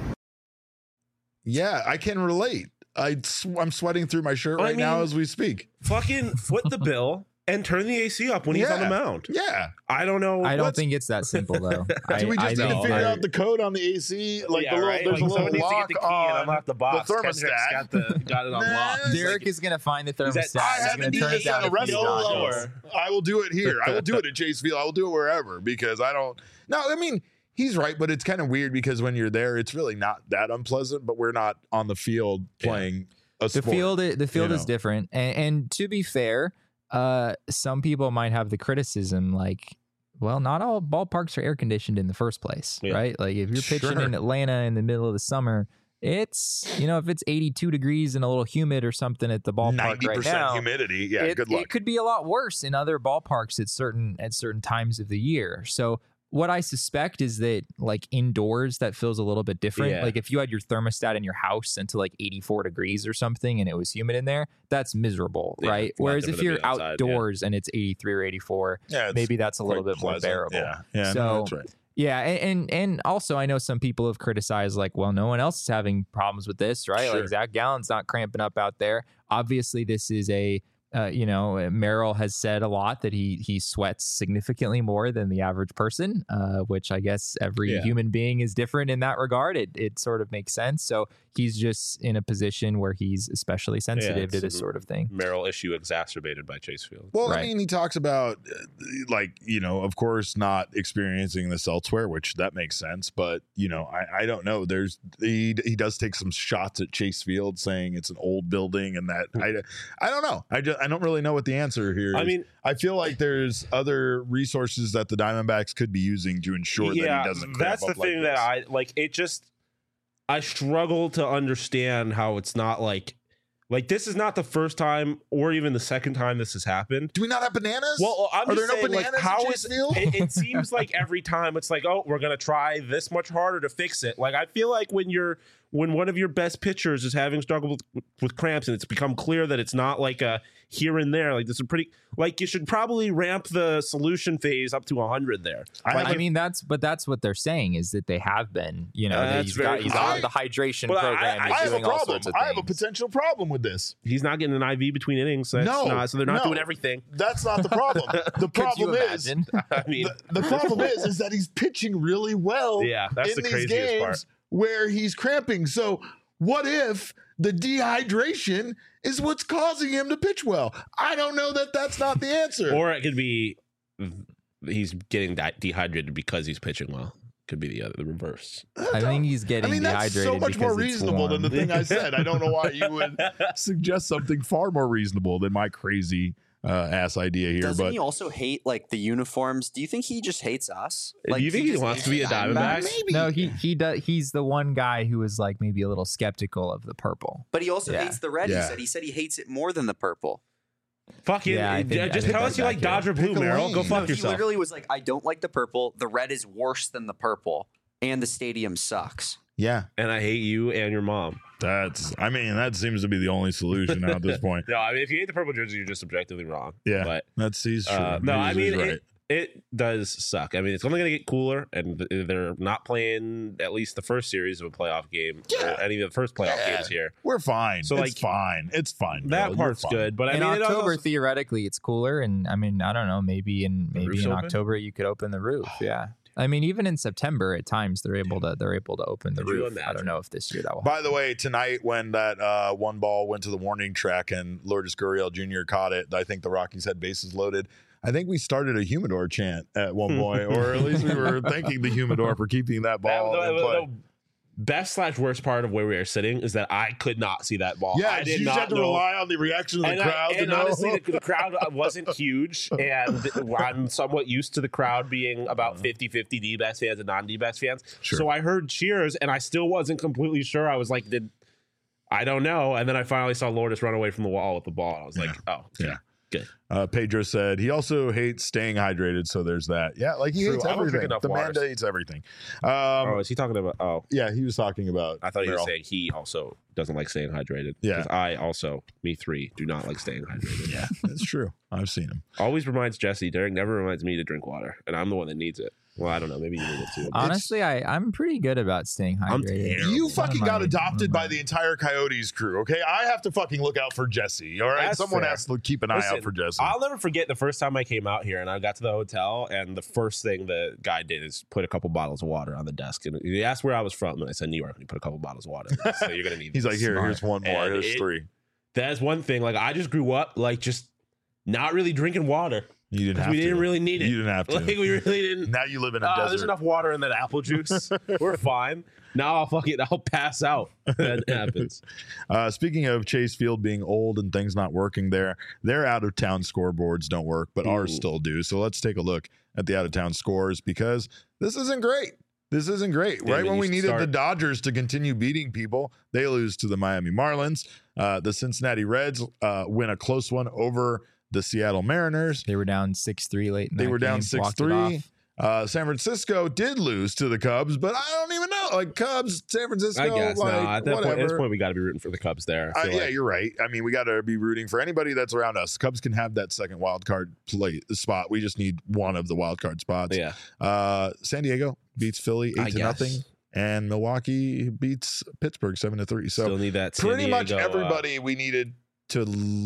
yeah, I can relate. I'm sweating through my shirt right now as we speak. Fucking foot the bill and turn the AC up when he's on the mound. Yeah, I don't know. I don't think it's that simple though. Do we just need to figure out the code on the AC? Like there's a little lock on the box. The thermostat. Got it on lock. Derek is going to find the thermostat. I haven't turn it down lower. I will do it here. I will do it at Chase Field. I will do it wherever because I don't. No, I mean he's right, but it's kind of weird because when you're there, it's really not that unpleasant. But we're not on the field playing a sport. The field is different, and to be fair, some people might have the criticism like, well, not all ballparks are air conditioned in the first place, right? Like if you're pitching in Atlanta in the middle of the summer, it's, you know, if it's 82 degrees and a little humid or something at the ballpark 90% right now, humidity. Yeah, good luck. It could be a lot worse in other ballparks at certain times of the year. So what I suspect is that like indoors, that feels a little bit different. Yeah. Like if you had your thermostat in your house into like 84 degrees or something and it was humid in there, that's miserable, right? Whereas if you're outdoors and it's 83 or 84, maybe that's a little bit more bearable. Yeah, so, that's right. Yeah, and also I know some people have criticized like, well, no one else is having problems with this, right? Sure. Like Zach Gallen's not cramping up out there. Obviously, this is a Merrill has said a lot that he sweats significantly more than the average person, which I guess every human being is different in that regard. It sort of makes sense. So he's just in a position where he's especially sensitive to this sort of thing. Merrill issue exacerbated by Chase Field. Well, right. I mean, he talks about like, you know, of course not experiencing this elsewhere, which that makes sense. But, you know, I don't know. He does take some shots at Chase Field saying it's an old building and that I don't know. I don't really know what the answer here is. I mean, I feel like there's other resources that the Diamondbacks could be using to ensure that he doesn't cramp that's the up thing like that this. I like. It just, I struggle to understand how it's not like this is not the first time or even the second time this has happened. Do we not have bananas? Well, I'm Are just there saying, no bananas like, how at is Chase Field? it seems like every time it's like, oh, we're gonna try this much harder to fix it. Like I feel like when one of your best pitchers is having struggle with cramps and it's become clear that it's not like a here and there, like this is pretty, like you should probably ramp the solution phase up to 100 there. I mean, that's what they're saying is that they have been, you know, he's on the hydration program. I have a problem. I have a potential problem with this. He's not getting an IV between innings. So so they're not doing everything. That's not the problem. The problem is, I mean, the problem is that he's pitching really well. Yeah, that's in the these craziest games part. where he's cramping. So what if the dehydration is what's causing him to pitch well? I don't know that that's not the answer. Or it could be he's getting dehydrated because he's pitching well. Could be the reverse. I think he's getting dehydrated. That's so much more reasonable than the thing I said. I don't know why you would suggest something far more reasonable than my crazy ass idea here. Doesn't he also hate like the uniforms? Do you think he just hates us? Like, do you think he wants to be a Diamondback? Maybe. No, he does. He's the one guy who is like maybe a little skeptical of the purple. But he also hates the red. He said he hates it more than the purple. Fucking just tell us you like Dodger blue, Merrill. Go fuck yourself. He literally was like, I don't like the purple. The red is worse than the purple, and the stadium sucks. Yeah, and I hate you and your mom. That seems to be the only solution now at this point. No, I mean, if you hate the purple jersey, you're just objectively wrong. Yeah, but he's true. no, I mean, right. it does suck. I mean, it's only going to get cooler, and they're not playing at least the first series of a playoff game. Yeah. Or any of the first playoff games here. We're fine. So, it's fine. It's fine. That Bill. part's You're fine. good, but I in mean, October, theoretically, it's cooler, and I mean, I don't know, maybe in roof's open? October you could open the roof. Yeah, I mean, even in September, at times they're able to open the Could you roof. I imagine? don't know if this year that will. By the way, tonight when that one ball went to the warning track and Lourdes Gurriel Jr. caught it, I think the Rockies had bases loaded. I think we started a humidor chant at one point, or at least we were thanking the humidor for keeping that ball in play. The best/worst part of where we are sitting is that I could not see that ball. Yeah, I did you not had to know. rely on the reaction of the crowd to and know. honestly, the crowd wasn't huge, and I'm somewhat used to the crowd being about 50-50 D-backs fans and non-D-backs fans. Sure. So I heard cheers, and I still wasn't completely sure. I was like, I don't know. And then I finally saw Lourdes run away from the wall with the ball. And I was like, oh, Yeah. good. Pedro said he also hates staying hydrated, so there's that. Yeah, like he True. hates I don't drink everything. enough The man water. hates everything. Oh, is he talking about? Oh, Yeah, he was talking about. I thought he was Merrill. saying he also doesn't like staying hydrated. Yeah. 'Cause I also, me three, do not like staying hydrated. Yeah, that's true. I've seen him. Always reminds Jesse. Derek never reminds me to drink water, and I'm the one that needs it. Well, I don't know. Maybe you need it too. Honestly, I'm pretty good about staying I'm hydrated. terrible. You One of fucking my- got adopted one by of the entire Coyotes crew, okay? I have to fucking look out for Jesse, all right? That's Someone fair. has to keep an eye Listen, out for Jesse. I'll never forget the first time I came out here and I got to the hotel, and the first thing the guy did is put a couple bottles of water on the desk. And he asked where I was from, and I said New York. And he put a couple bottles of water. So you're gonna need. He's like, this. here, Smart. here's one more. And Here's three. That's one thing. Like I just grew up like just not really drinking water. You didn't 'Cause have we to. didn't really need it. You didn't have to. Like we really didn't. Now you live in a There's desert. enough water in that apple juice. We're fine. Now I'll pass out. That happens. Speaking of Chase Field being old and things not working there, their out of town scoreboards don't work, but ours Ooh. still do. So let's take a look at the out of town scores because this isn't great. This isn't great. Yeah, Right I mean, when we you needed the start- Dodgers to continue beating people, they lose to the Miami Marlins. The Cincinnati Reds win a close one over the Seattle Mariners. They were down 6-3 late. In They that were down game, walked it 6-3. off. San Francisco did lose to the Cubs, but I don't even know. Like Cubs, San Francisco, I guess like, no. At whatever. this point, we got to be rooting for the Cubs there. I feel Yeah, like. you're right. I mean, we got to be rooting for anybody that's around us. Cubs can have that second wild card spot. We just need one of the wild card spots. Yeah. San Diego beats Philly I 8-0, guess. and Milwaukee beats Pittsburgh 7-3. So Still need that. San pretty much Diego, everybody we needed to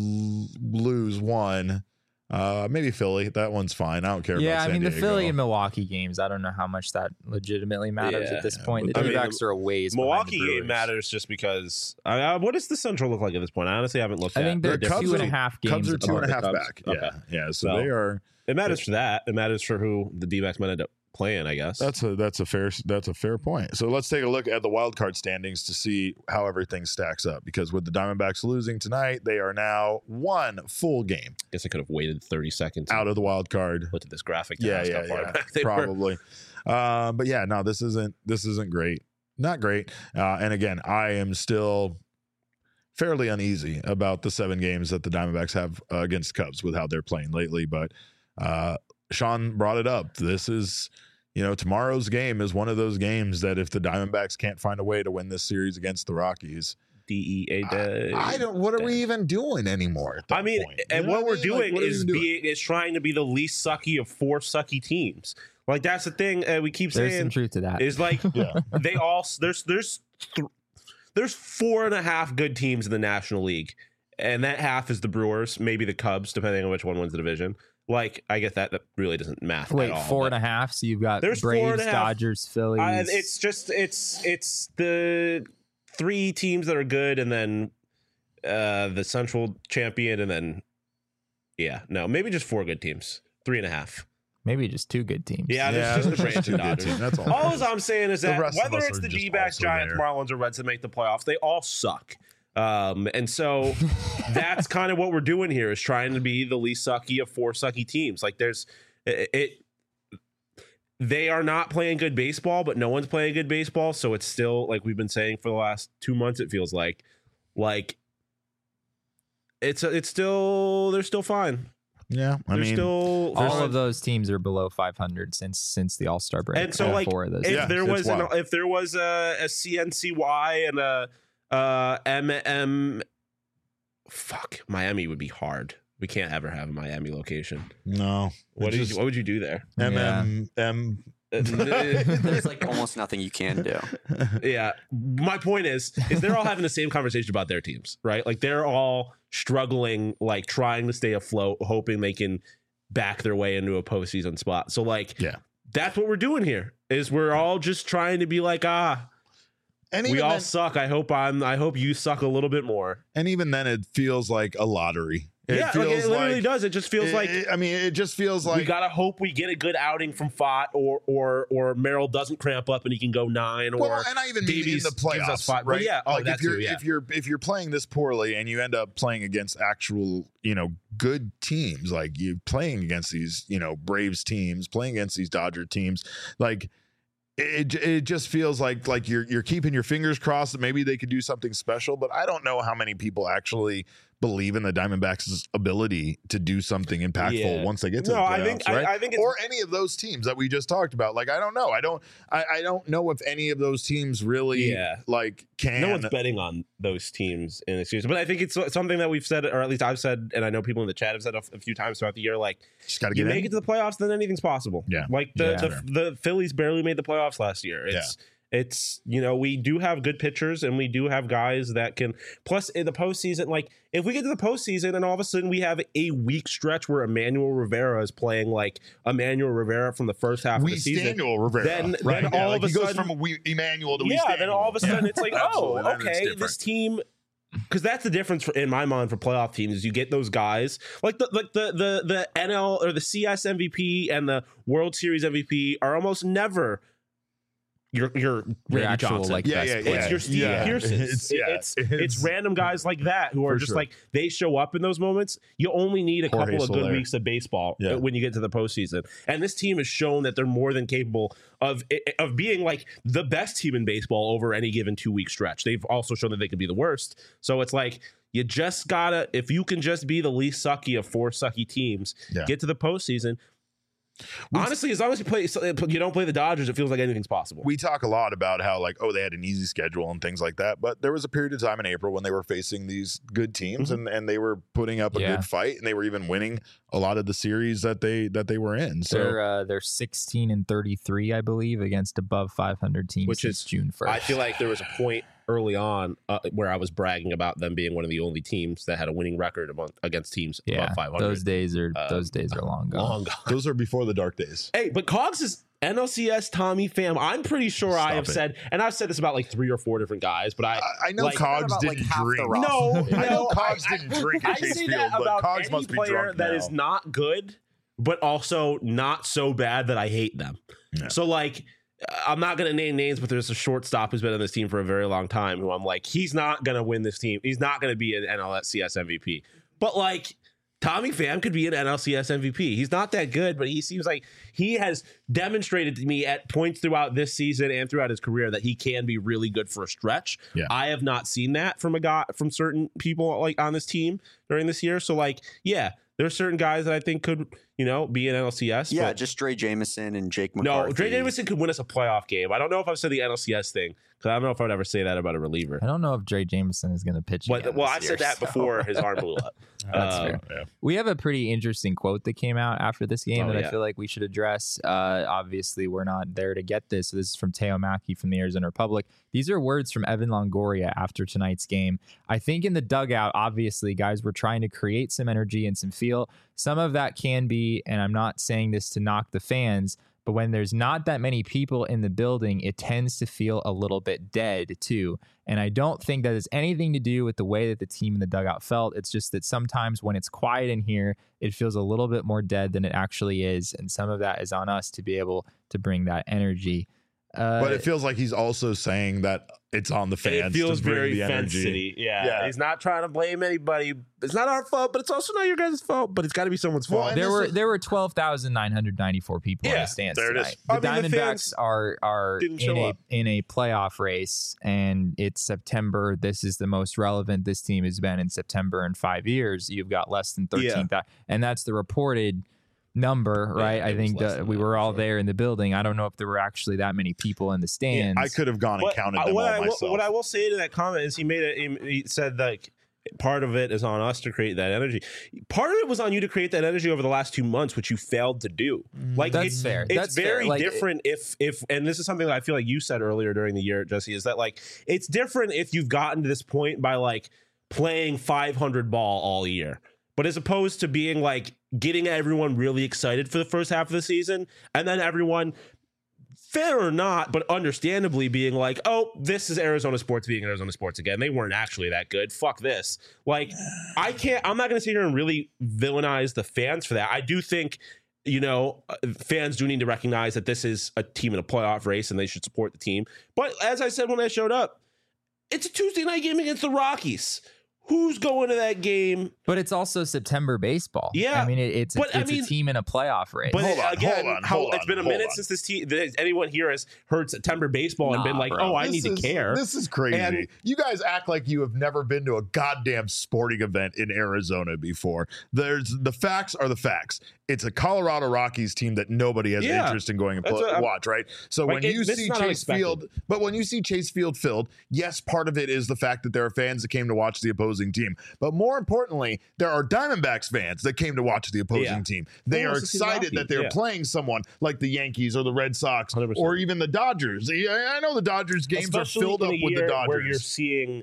lose one. Maybe Philly. That one's fine. I don't care. Yeah, about I San mean the Diego. Philly and Milwaukee games. I don't know how much that legitimately matters Yeah, at this point. The I mean, D-backs are a ways. behind the Milwaukee game Brewers. matters just because. What does the Central look like at this point? I honestly haven't looked I at. think the they're difference. 2.5 games. Cubs are apart. 2.5 Cubs? back. Okay. Yeah. So So- they are. It matters for that. It matters for who the D-backs might end up playing. I guess. That's a fair point. So let's take a look at the wild card standings to see how everything stacks up. Because with the Diamondbacks losing tonight, they are now one full game I guess I could have waited 30 seconds. out of the wild card. Looked at this graphic. To Yeah, ask yeah, how far yeah. back they were. Probably. But yeah, no, this isn't great. Not great. And again, I am still fairly uneasy about the 7 games that the Diamondbacks have against Cubs with how they're playing lately. But Sean brought it up. This is, tomorrow's game is one of those games that if the Diamondbacks can't find a way to win this series against the Rockies, DEA day. I don't. What are we even doing anymore? At that I mean, point? and You know what we're I mean? Like, doing what are we is even doing? is trying to be the least sucky of 4 sucky teams. Like that's the thing we keep There's some saying truth to that. is like Yeah. they all there's 4.5 good teams in the National League, and that half is the Brewers, maybe the Cubs, depending on which one wins the division. Like I guess that really doesn't math. Wait, at all, 4.5. So you've got There's Braves, 4.5. Dodgers, Phillies. It's just it's the 3 teams that are good, and then the Central champion, and then maybe just 4 good teams, 3.5. maybe just 2 good teams. Yeah, there's just the there's Braves and two good Dodgers. teams. That's all. All I'm saying is The that rest of whether us it's are the just D-backs, also Giants, there. Marlins, or Reds that make the playoffs, they all suck. And so that's kind of what we're doing here is trying to be the least sucky of 4 sucky teams. Like they are not playing good baseball, but no one's playing good baseball. So it's still like we've been saying for the last 2 months, it feels like it's still, they're still fine. Yeah, I They're mean, still All of those teams are below 500 since the All-Star break. And so, All like, 4 of those. if Yeah, there it's was wild. if there was a CNCY and Miami would be hard. We can't ever have a Miami location. No. What would you do there? There's like almost nothing you can do. Yeah. My point is they're all having the same conversation about their teams, right? Like they're all struggling, like trying to stay afloat, hoping they can back their way into a postseason spot. So like, that's what we're doing here is we're all just trying to be like, and we all suck. I hope you suck a little bit more. And even then it feels like a lottery. It literally does. It just feels like. It just feels like we gotta hope we get a good outing from Fott, or Merrill doesn't cramp up and he can go 9. Or and I even mean Davies in the playoffs, right? Well, yeah, like if you're playing this poorly and you end up playing against actual good teams, like you playing against these Braves teams, playing against these Dodger teams, like. It just feels like you're keeping your fingers crossed that maybe they could do something special, but I don't know how many people actually believe in the Diamondbacks' ability to do something impactful once they get to the playoffs, right? I think or any of those teams that we just talked about. Like I don't know. I don't know if any of those teams really can. No one's betting on those teams in the series, but I think it's something that we've said, or at least I've said, and I know people in the chat have said a few times throughout the year. Like, just gotta make it to the playoffs, then anything's possible. Yeah, like the Phillies barely made the playoffs last year. It's we do have good pitchers and we do have guys that can. Plus, in the postseason, like if we get to the postseason and all of a sudden we have a week stretch where Emmanuel Rivera is playing like Emmanuel Rivera from the first half of the season, then all of a sudden he goes from Emmanuel to then all of a sudden it's like, oh, okay, this team. Because that's the difference in my mind for playoff teams is you get those guys like the NL or the CS MVP and the World Series MVP are almost never. Your Randy Johnson. It's your Steve Pearsons. It's random guys like that who are just like they show up in those moments. You only need a couple of good weeks of baseball when you get to the postseason. And this team has shown that they're more than capable of being like the best team in baseball over any given 2-week stretch. They've also shown that they could be the worst. So it's like you just gotta, if you can just be the least sucky of 4 sucky teams, get to the postseason. Honestly, as long as you don't play the Dodgers, it feels like anything's possible. We talk a lot about how they had an easy schedule and things like that, but there was a period of time in April when they were facing these good teams and they were putting up a good fight and they were even winning a lot of the series that they were in. So they're 16-33, I believe, against above 500 teams, which is June 1st. I feel like there was a point early on where I was bragging about them being one of the only teams that had a winning record against teams above 500. Those days are long gone. Long gone. Those are before the dark days. Hey, but Cogs is NLCS Tommy Pham. I'm pretty sure I have said, and I've said this about like 3 or 4 different guys, but I know Cogs didn't drink. No, I know Cogs didn't drink at Chase Field, but Cogs must be drunk that now. is not good, but also not so bad that I hate them. Yeah. So like, I'm not going to name names, but there's a shortstop who's been on this team for a very long time who I'm like, he's not going to win this team. He's not going to be an NLCS MVP. But like, Tommy Pham could be an NLCS MVP. He's not that good, but he seems like he has demonstrated to me at points throughout this season and throughout his career that he can be really good for a stretch. Yeah. I have not seen that from from certain people like on this team during this year. So like, there are certain guys that I think could, be in NLCS. Yeah, just Dre Jameson and Jake McCarthy. No, Dre Jameson could win us a playoff game. I don't know if I've said the NLCS thing, because I don't know if I would ever say that about a reliever. I don't know if Dre Jameson is going to pitch again I've said that before his arm blew up. That's fair. Yeah. We have a pretty interesting quote that came out after this game I feel like we should address. Obviously, we're not there to get this. So this is from Teo Mackey from the Arizona Republic. These are words from Evan Longoria after tonight's game. I think in the dugout, obviously, guys were trying to create some energy and some feel. Some of that can be, and I'm not saying this to knock the fans, but when there's not that many people in the building, it tends to feel a little bit dead too. And I don't think that has anything to do with the way that the team in the dugout felt. It's just that sometimes when it's quiet in here, it feels a little bit more dead than it actually is. And some of that is on us to be able to bring that energy. But it feels like he's also saying that it's on the fans. It feels to bring very the Fence energy. City. Yeah. He's not trying to blame anybody. It's not our fault, but it's also not your guys' fault. But it's got to be someone's fault. There were 12,994 people in the stands tonight. The Diamondbacks are in a playoff race, and it's September. This is the most relevant this team has been in September in 5 years. You've got less than 13,000, and that's the reported number, right? Yeah, I it was think less than we that, were for all sure. there in the building. I don't know if there were actually that many people in the stands. I could have gone and But counted them all myself. what I will say to that comment is he said like part of it is on us to create that energy. Part of it was on you to create that energy over the last 2 months, which you failed to do. Like That's it's fair. It's That's fair. very Like, different if and this is something that I feel like you said earlier during the year, Jesse, is that like it's different if you've gotten to this point by like playing 500 ball all year. But as opposed to being like getting everyone really excited for the first half of the season and then everyone, fair or not, but understandably being like, oh, this is Arizona sports being Arizona sports again. They weren't actually that good. Fuck this. Like, I'm not going to sit here and really villainize the fans for that. I do think, fans do need to recognize that this is a team in a playoff race and they should support the team. But as I said when I showed up, it's a Tuesday night game against the Rockies. Who's going to that game? But it's also September baseball. Yeah, I mean, it's a team in a playoff race. But Hold on, it's been a minute since this team. Anyone here has heard September baseball and been like, bro. "Oh, I need to care." This is crazy. And- you guys act like you have never been to a goddamn sporting event in Arizona before. The facts are the facts. It's a Colorado Rockies team that nobody has interest in going and watch, right? So like, when you this see is not Chase unexpected. Field, but when you see Chase Field filled, yes, part of it is the fact that there are fans that came to watch the opposing team. But more importantly, there are Diamondbacks fans that came to watch the opposing team. They are excited that they're playing someone like the Yankees or the Red Sox 100%. or even the Dodgers. I know the Dodgers games Especially are filled in up a with the year Dodgers. where you're seeing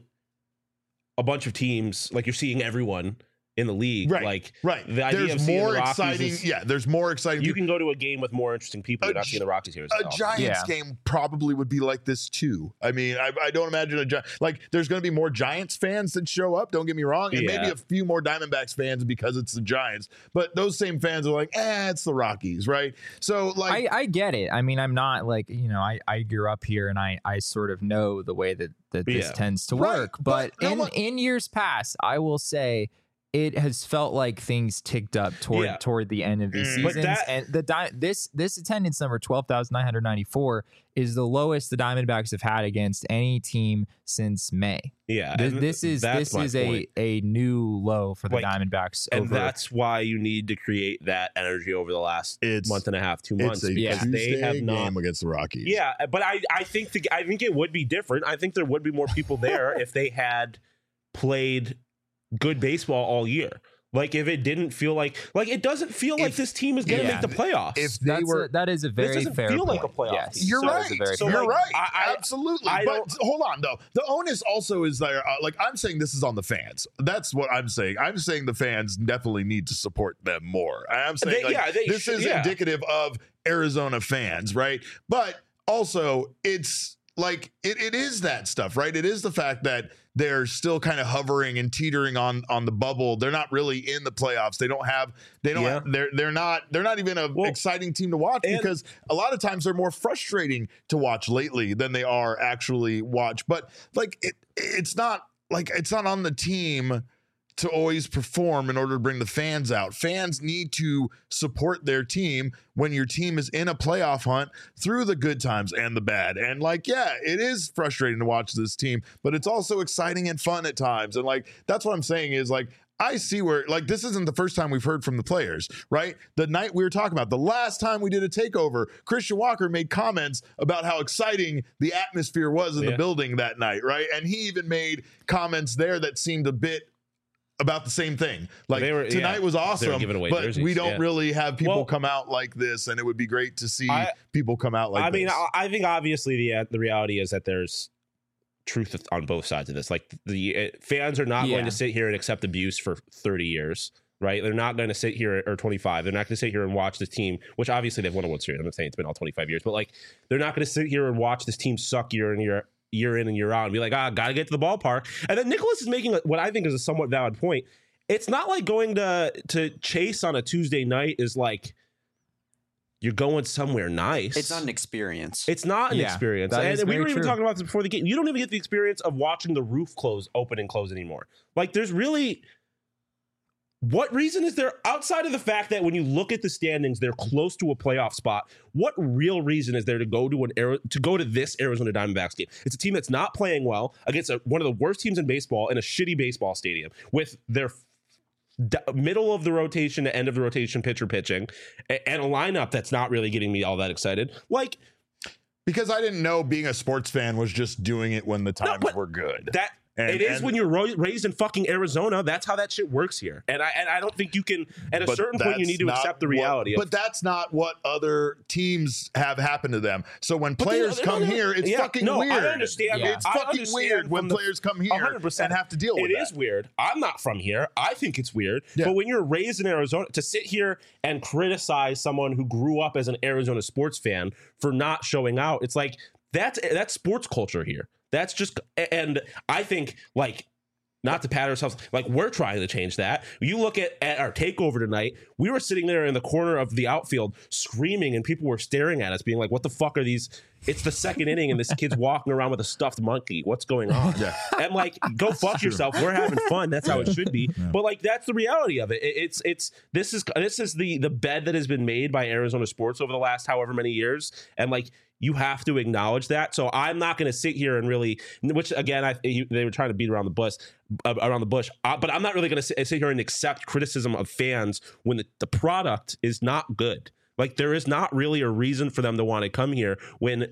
a bunch of teams, like you're seeing everyone in the league. Right, Like right. the idea There's of seeing more the Rockies exciting. is- there's more exciting. you can go to a game with more interesting people. You're not seeing the Rockies here. A Giants game probably would be like this too. I mean, I don't imagine there's going to be more Giants fans that show up. Don't get me wrong, and maybe a few more Diamondbacks fans because it's the Giants. But those same fans are like, it's the Rockies, right? So like, I get it. I mean, I'm not like I grew up here and I sort of know the way that this tends to work. But in years past, I will say, it has felt like things ticked up toward the end of these seasons, and this attendance number 12,994 is the lowest the Diamondbacks have had against any team since May. Yeah, this is a new low for the Diamondbacks, and that's why you need to create that energy over the last month and a half, 2 months, because they have not game against the Rockies. Yeah, but I think it would be different. I think there would be more people there if they had played good baseball all year. Like if it didn't feel like it doesn't feel like this team is going to make the playoffs. If they that is a very fair feel point. like a playoff. Yes. team. You're So- right. so, You're like, right. Absolutely. But hold on, though. The onus also is there. I'm saying this is on the fans. That's what I'm saying. I'm saying the fans definitely need to support them more. I'm saying this is indicative of Arizona fans, right? But also, it's like it is that stuff, right? It is the fact that they're still kind of hovering and teetering on the bubble. They're not really in the playoffs. They're not even an exciting team to watch because a lot of times they're more frustrating to watch lately than they are actually watch. But like it's not on the team to always perform in order to bring the fans out. Fans need to support their team when your team is in a playoff hunt through the good times and the bad. And it is frustrating to watch this team, but it's also exciting and fun at times. And that's what I'm saying is I see where this isn't the first time we've heard from the players, right? The night we were talking about, the last time we did a takeover, Christian Walker made comments about how exciting the atmosphere was in the building that night, right? And he even made comments there that seemed a bit about the same thing. Tonight was awesome, but jerseys, we don't really have people come out like this, and it would be great to see people come out like this. I think obviously the reality is that there's truth on both sides of this. Like the fans are not going to sit here and accept abuse for 30 years. Right? They're not going to sit here, or 25. They're not going to sit here and watch this team, which obviously they've won a World Series. I'm not saying it's been all 25 years, but they're not going to sit here and watch this team suck year in and year out and be like, gotta get to the ballpark. And then Nicholas is making what I think is a somewhat valid point. It's not like going to Chase on a Tuesday night is like you're going somewhere nice. It's not an experience. It's not an experience. And we were even talking about this before the game. You don't even get the experience of watching the roof open and close anymore. There's really... What reason is there outside of the fact that when you look at the standings, they're close to a playoff spot? What real reason is there to go to this Arizona Diamondbacks game? It's a team that's not playing well against one of the worst teams in baseball in a shitty baseball stadium with their middle of the rotation to end of the rotation pitcher pitching, and a lineup that's not really getting me all that excited. Like, because I didn't know being a sports fan was just doing it when the times were good. When you're raised in fucking Arizona. That's how that shit works here. And I don't think you can, at a certain point, you need to accept the reality. But that's not what other teams have happened to them. So when players come here, it's fucking weird. I understand. Yeah. It's fucking weird when players come here 100%. and have to deal with it. It is weird. I'm not from here. I think it's weird. Yeah. But when you're raised in Arizona, to sit here and criticize someone who grew up as an Arizona sports fan for not showing out, it's like, that's sports culture here. That's just, and I think, like, not to pat ourselves, like, we're trying to change that. You look at our takeover tonight, we were sitting there in the corner of the outfield screaming, and people were staring at us being like, what the fuck are these? It's the second inning and this kid's walking around with a stuffed monkey. What's going on? Yeah. And like, go fuck yourself. We're having fun. That's how it should be. Yeah. But like, that's the reality of it. This is the bed that has been made by Arizona sports over the last however many years. And like, you have to acknowledge that. So I'm not going to sit here and really, which again, they were trying to beat around the bush, but I'm not really going to sit here and accept criticism of fans when the product is not good. Like, there is not really a reason for them to want to come here when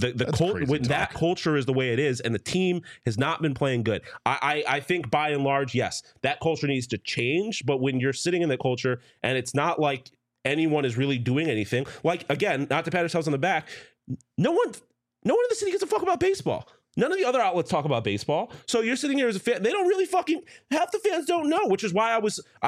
that culture is the way it is, and the team has not been playing good. I think by and large, yes, that culture needs to change. But when you're sitting in that culture and it's not like anyone is really doing anything, like, again, not to pat ourselves on the back, no one in the city gives a fuck about baseball. None of the other outlets talk about baseball. So you're sitting here as a fan. They don't really half the fans don't know, which is why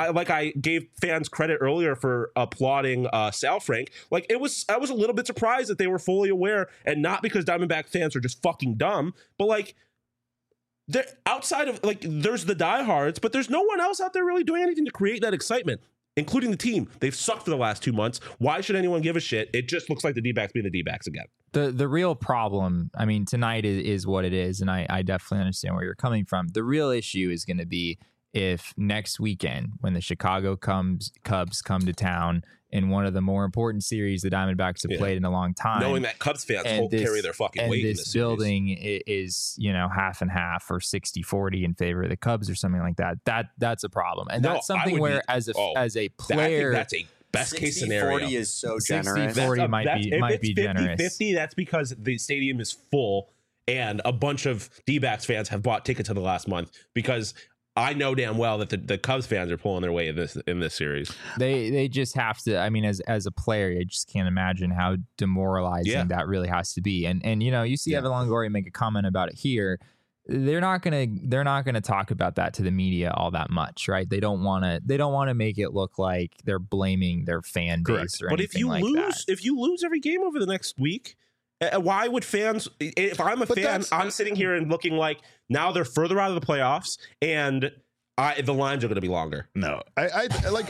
I gave fans credit earlier for applauding Sal Frank. Like, I was a little bit surprised that they were fully aware, and not because Diamondback fans are just fucking dumb, but like, they're outside of, like, there's the diehards, but there's no one else out there really doing anything to create that excitement, including the team. They've sucked for the last 2 months. Why should anyone give a shit? It just looks like the D-backs being the D-backs again. The real problem, I mean, tonight is what it is, and I definitely understand where you're coming from. The real issue is going to be if next weekend, when the Chicago Cubs come to town in one of the more important series the Diamondbacks have played in a long time, knowing that Cubs fans won't carry their fucking weight in this building is, half and half or 60-40 in favor of the Cubs or something like that. That's a problem, and that's something where as a player, that's a best case scenario. 60-40 is so generous. 60-40 might be generous. 50-50, that's because the stadium is full and a bunch of D-backs fans have bought tickets in the last month, because I know damn well that the Cubs fans are pulling their weight in this series. They just have to. I mean, as a player, I just can't imagine how demoralizing that really has to be. And you see Evan Longoria make a comment about it here. They're not gonna talk about that to the media all that much, right? They don't want to make it look like they're blaming their fan base or anything like that. If you lose every game over the next week, why would fans? If I'm a fan, I'm sitting here and looking like now they're further out of the playoffs and the lines are going to be longer. No, I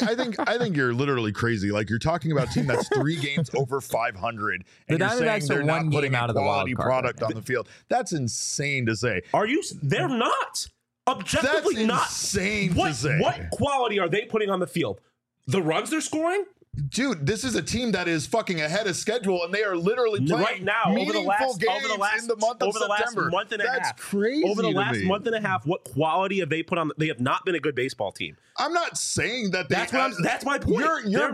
think you're literally crazy. Like, you're talking about a team that's 3 games over 500, and you're saying they're not putting out a quality product on the field. That's insane to say. Are you? They're not. Objectively not. Insane to say. What quality are they putting on the field? The runs they're scoring? Dude, this is a team that is fucking ahead of schedule, and they are literally playing right now in the month of September. Month and a That's half. Crazy. Over the last month and a half, what quality have they put on? They have not been a good baseball team. I'm not saying that they. That's my point. You're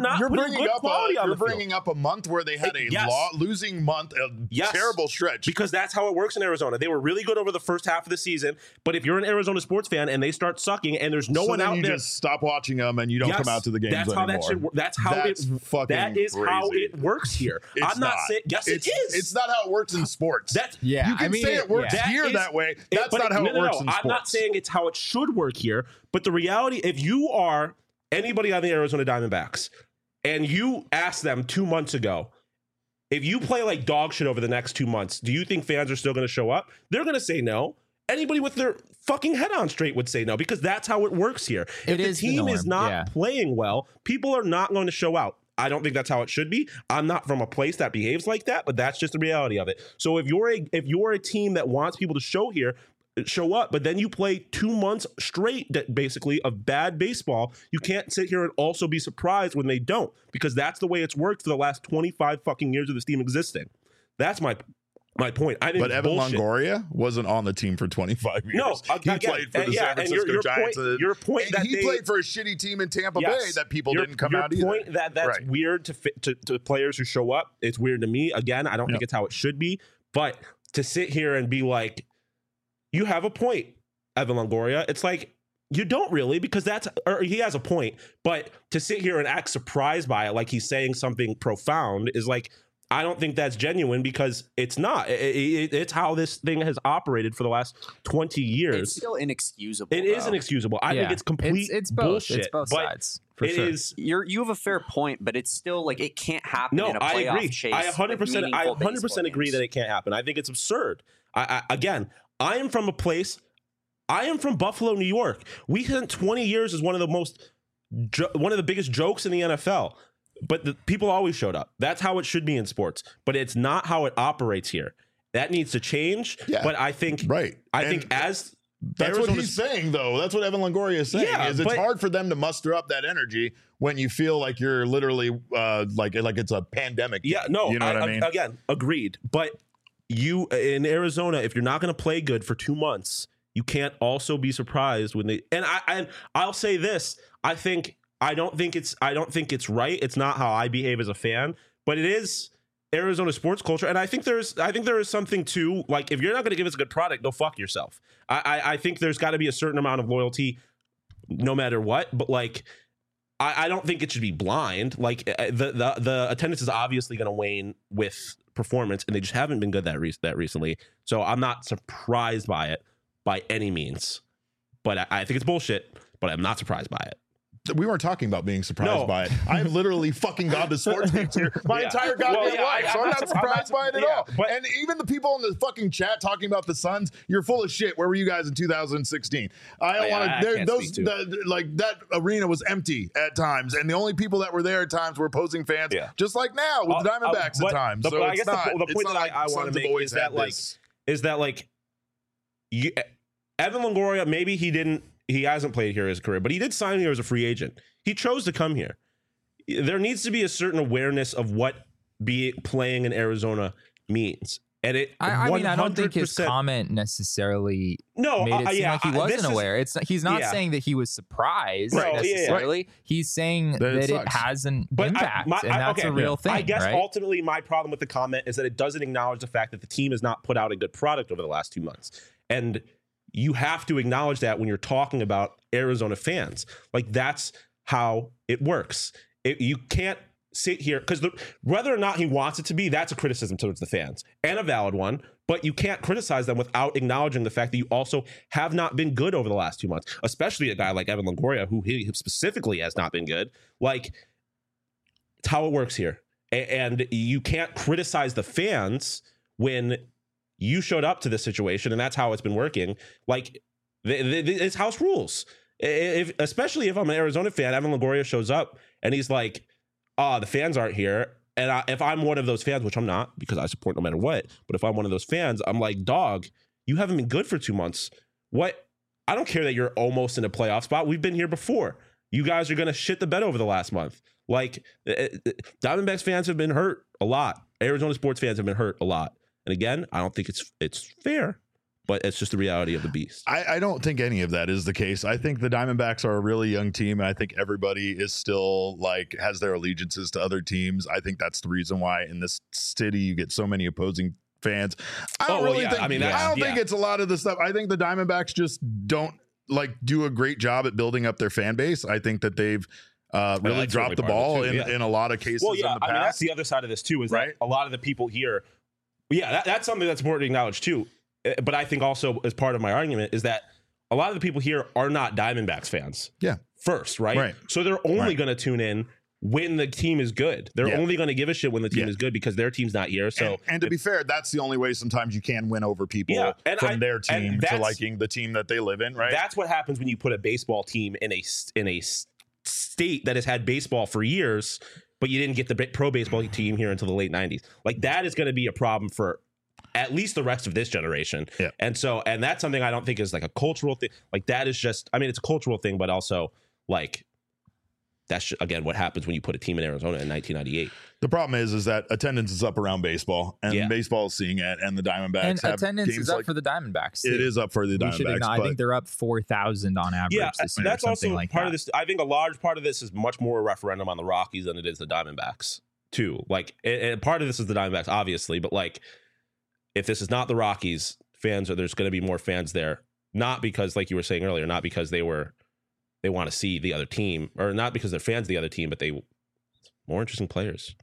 You're bringing up a month where they had a losing month, terrible stretch. Because that's how it works in Arizona. They were really good over the first half of the season, but if you're an Arizona sports fan and they start sucking and there's no one out there, just stop watching them and you don't come out to the games anymore. That is how it works here. I'm not saying yes, it is. It's not how it works in sports. You can say it works here that way. That's not how it works in sports. I'm not saying it's how it should work here, but the reality, if you are anybody on the Arizona Diamondbacks and you asked them 2 months ago, if you play like dog shit over the next 2 months, do you think fans are still going to show up? They're going to say no. Anybody with their fucking head on straight would say no, because that's how it works here. If the team is not playing well, people are not going to show out. I don't think that's how it should be. I'm not from a place that behaves like that, but that's just the reality of it. So if you're a team that wants people to show up, but then you play 2 months straight, basically, of bad baseball, you can't sit here and also be surprised when they don't, because that's the way it's worked for the last 25 fucking years of this team existing. That's my my point. I think But Evan Longoria wasn't on the team for 25 years. No, he again, played for the San Francisco Giants. Your point and that he played for a shitty team in Tampa Bay that people didn't come out either. Your point that that's Right. weird to players who show up. It's weird to me. Again, I don't think it's how it should be. But to sit here and be like, you have a point, Evan Longoria. It's like, you don't really, because he has a point. But to sit here and act surprised by it, like he's saying something profound, is like, I don't think that's genuine, because it's not. It's how this thing has operated for the last 20 years. It's still inexcusable. It is inexcusable. I think it's complete it's both. bullshit. It's both but sides. For sure. is. You have a fair point, but it's still like it can't happen No, in a I playoff agree. chase. I 100%. I 100% agree games. that it can't happen. I think it's absurd. Again, I am from a place. I am from Buffalo, New York. We spent 20 years as one of the biggest jokes in the NFL. But the people always showed up. That's how it should be in sports. But it's not how it operates here. That needs to change. Yeah. But I think Right. I think as That's what he's saying, though. That's what Evan Longoria is saying. Yeah, is it's but- hard for them to muster up that energy when you feel like you're literally like it's a pandemic. Yeah, no, you know what I mean? Again, agreed. But you in Arizona, if you're not going to play good for 2 months, you can't also be surprised when they. And I'll say this: I don't think it's right. It's not how I behave as a fan, but it is Arizona sports culture, and I think there is something to, like, if you're not going to give us a good product, go fuck yourself. I think there's got to be a certain amount of loyalty, no matter what. But like, I don't think it should be blind. Like the attendance is obviously going to wane with performance, and they just haven't been good that recently. So I'm not surprised by it by any means. But I think it's bullshit. But I'm not surprised by it. We weren't talking about being surprised No. by it. I've literally fucking gone to sports games here my Yeah. entire goddamn Well, yeah, life, so I'm not surprised by it at all. but- And even the people in the fucking chat talking about the Suns, you're full of shit. Where were you guys in 2016? I don't Yeah, I want to. can't Those speak to like that arena was empty at times, and the only people that were there at times were opposing fans, Yeah. just like now with the Diamondbacks but at times. the- So I it's guess not. the it's point not that like I want Suns to have make always is that had like this. Evan Longoria, maybe he hasn't played here his career, but he did sign here as a free agent. He chose to come here. There needs to be a certain awareness of what playing in Arizona means. And I mean, I don't think his comment necessarily made it seem like he wasn't aware. He's not saying that he was surprised necessarily. He's saying that it has an impact, and that's a real thing. I guess right? ultimately my problem with the comment is that it doesn't acknowledge the fact that the team has not put out a good product over the last 2 months. And you have to acknowledge that when you're talking about Arizona fans. Like, that's how it works. You can't sit here, because whether or not he wants it to be, that's a criticism towards the fans, and a valid one, but you can't criticize them without acknowledging the fact that you also have not been good over the last 2 months, especially a guy like Evan Longoria, who he specifically has not been good. Like, it's how it works here. And you can't criticize the fans when you showed up to this situation, and that's how it's been working. Like, it's house rules. Especially if I'm an Arizona fan, Evan Longoria shows up and he's like, the fans aren't here. And if I'm one of those fans, which I'm not, because I support no matter what, but if I'm one of those fans, I'm like, dog, you haven't been good for 2 months. What? I don't care that you're almost in a playoff spot. We've been here before. You guys are going to shit the bed over the last month. Like, Diamondbacks fans have been hurt a lot. Arizona sports fans have been hurt a lot. And again, I don't think it's fair, but it's just the reality of the beast. I don't think any of that is the case. I think the Diamondbacks are a really young team. And I think everybody is still like has their allegiances to other teams. I think that's the reason why in this city you get so many opposing fans. I don't think it's a lot of the stuff. I think the Diamondbacks just don't do a great job at building up their fan base. I think that they've really dropped the ball in a lot of cases. Well, yeah, in the past. I mean, that's the other side of this too, is that a lot of the people here, that's something that's important to acknowledge too. But I think also as part of my argument is that a lot of the people here are not Diamondbacks fans. Yeah. First, right? So they're only going to tune in when the team is good. They're only going to give a shit when the team is good because their team's not here. So and to be fair, that's the only way sometimes you can win over people from their team to liking the team that they live in, right? That's what happens when you put a baseball team in a state that has had baseball for years, but you didn't get the pro baseball team here until the late 90s. Like, that is going to be a problem for at least the rest of this generation. Yeah. And that's something I don't think is like a cultural thing. Like, that is just, I mean, it's a cultural thing, but also like that's again what happens when you put a team in Arizona in 1998. The problem is that attendance is up around baseball, and baseball is seeing it, and the Diamondbacks And have attendance games is up like, for the Diamondbacks. it is up for the Diamondbacks. I think they're up 4,000 on average. Yeah, this year, that's also like part that. of this. I think a large part of this is much more a referendum on the Rockies than it is the Diamondbacks too. Like, and part of this is the Diamondbacks, obviously, but like, if this is not the Rockies, there's going to be more fans there. Not because, like you were saying earlier, not because they want to see the other team, or not because they're fans of the other team, but more interesting players.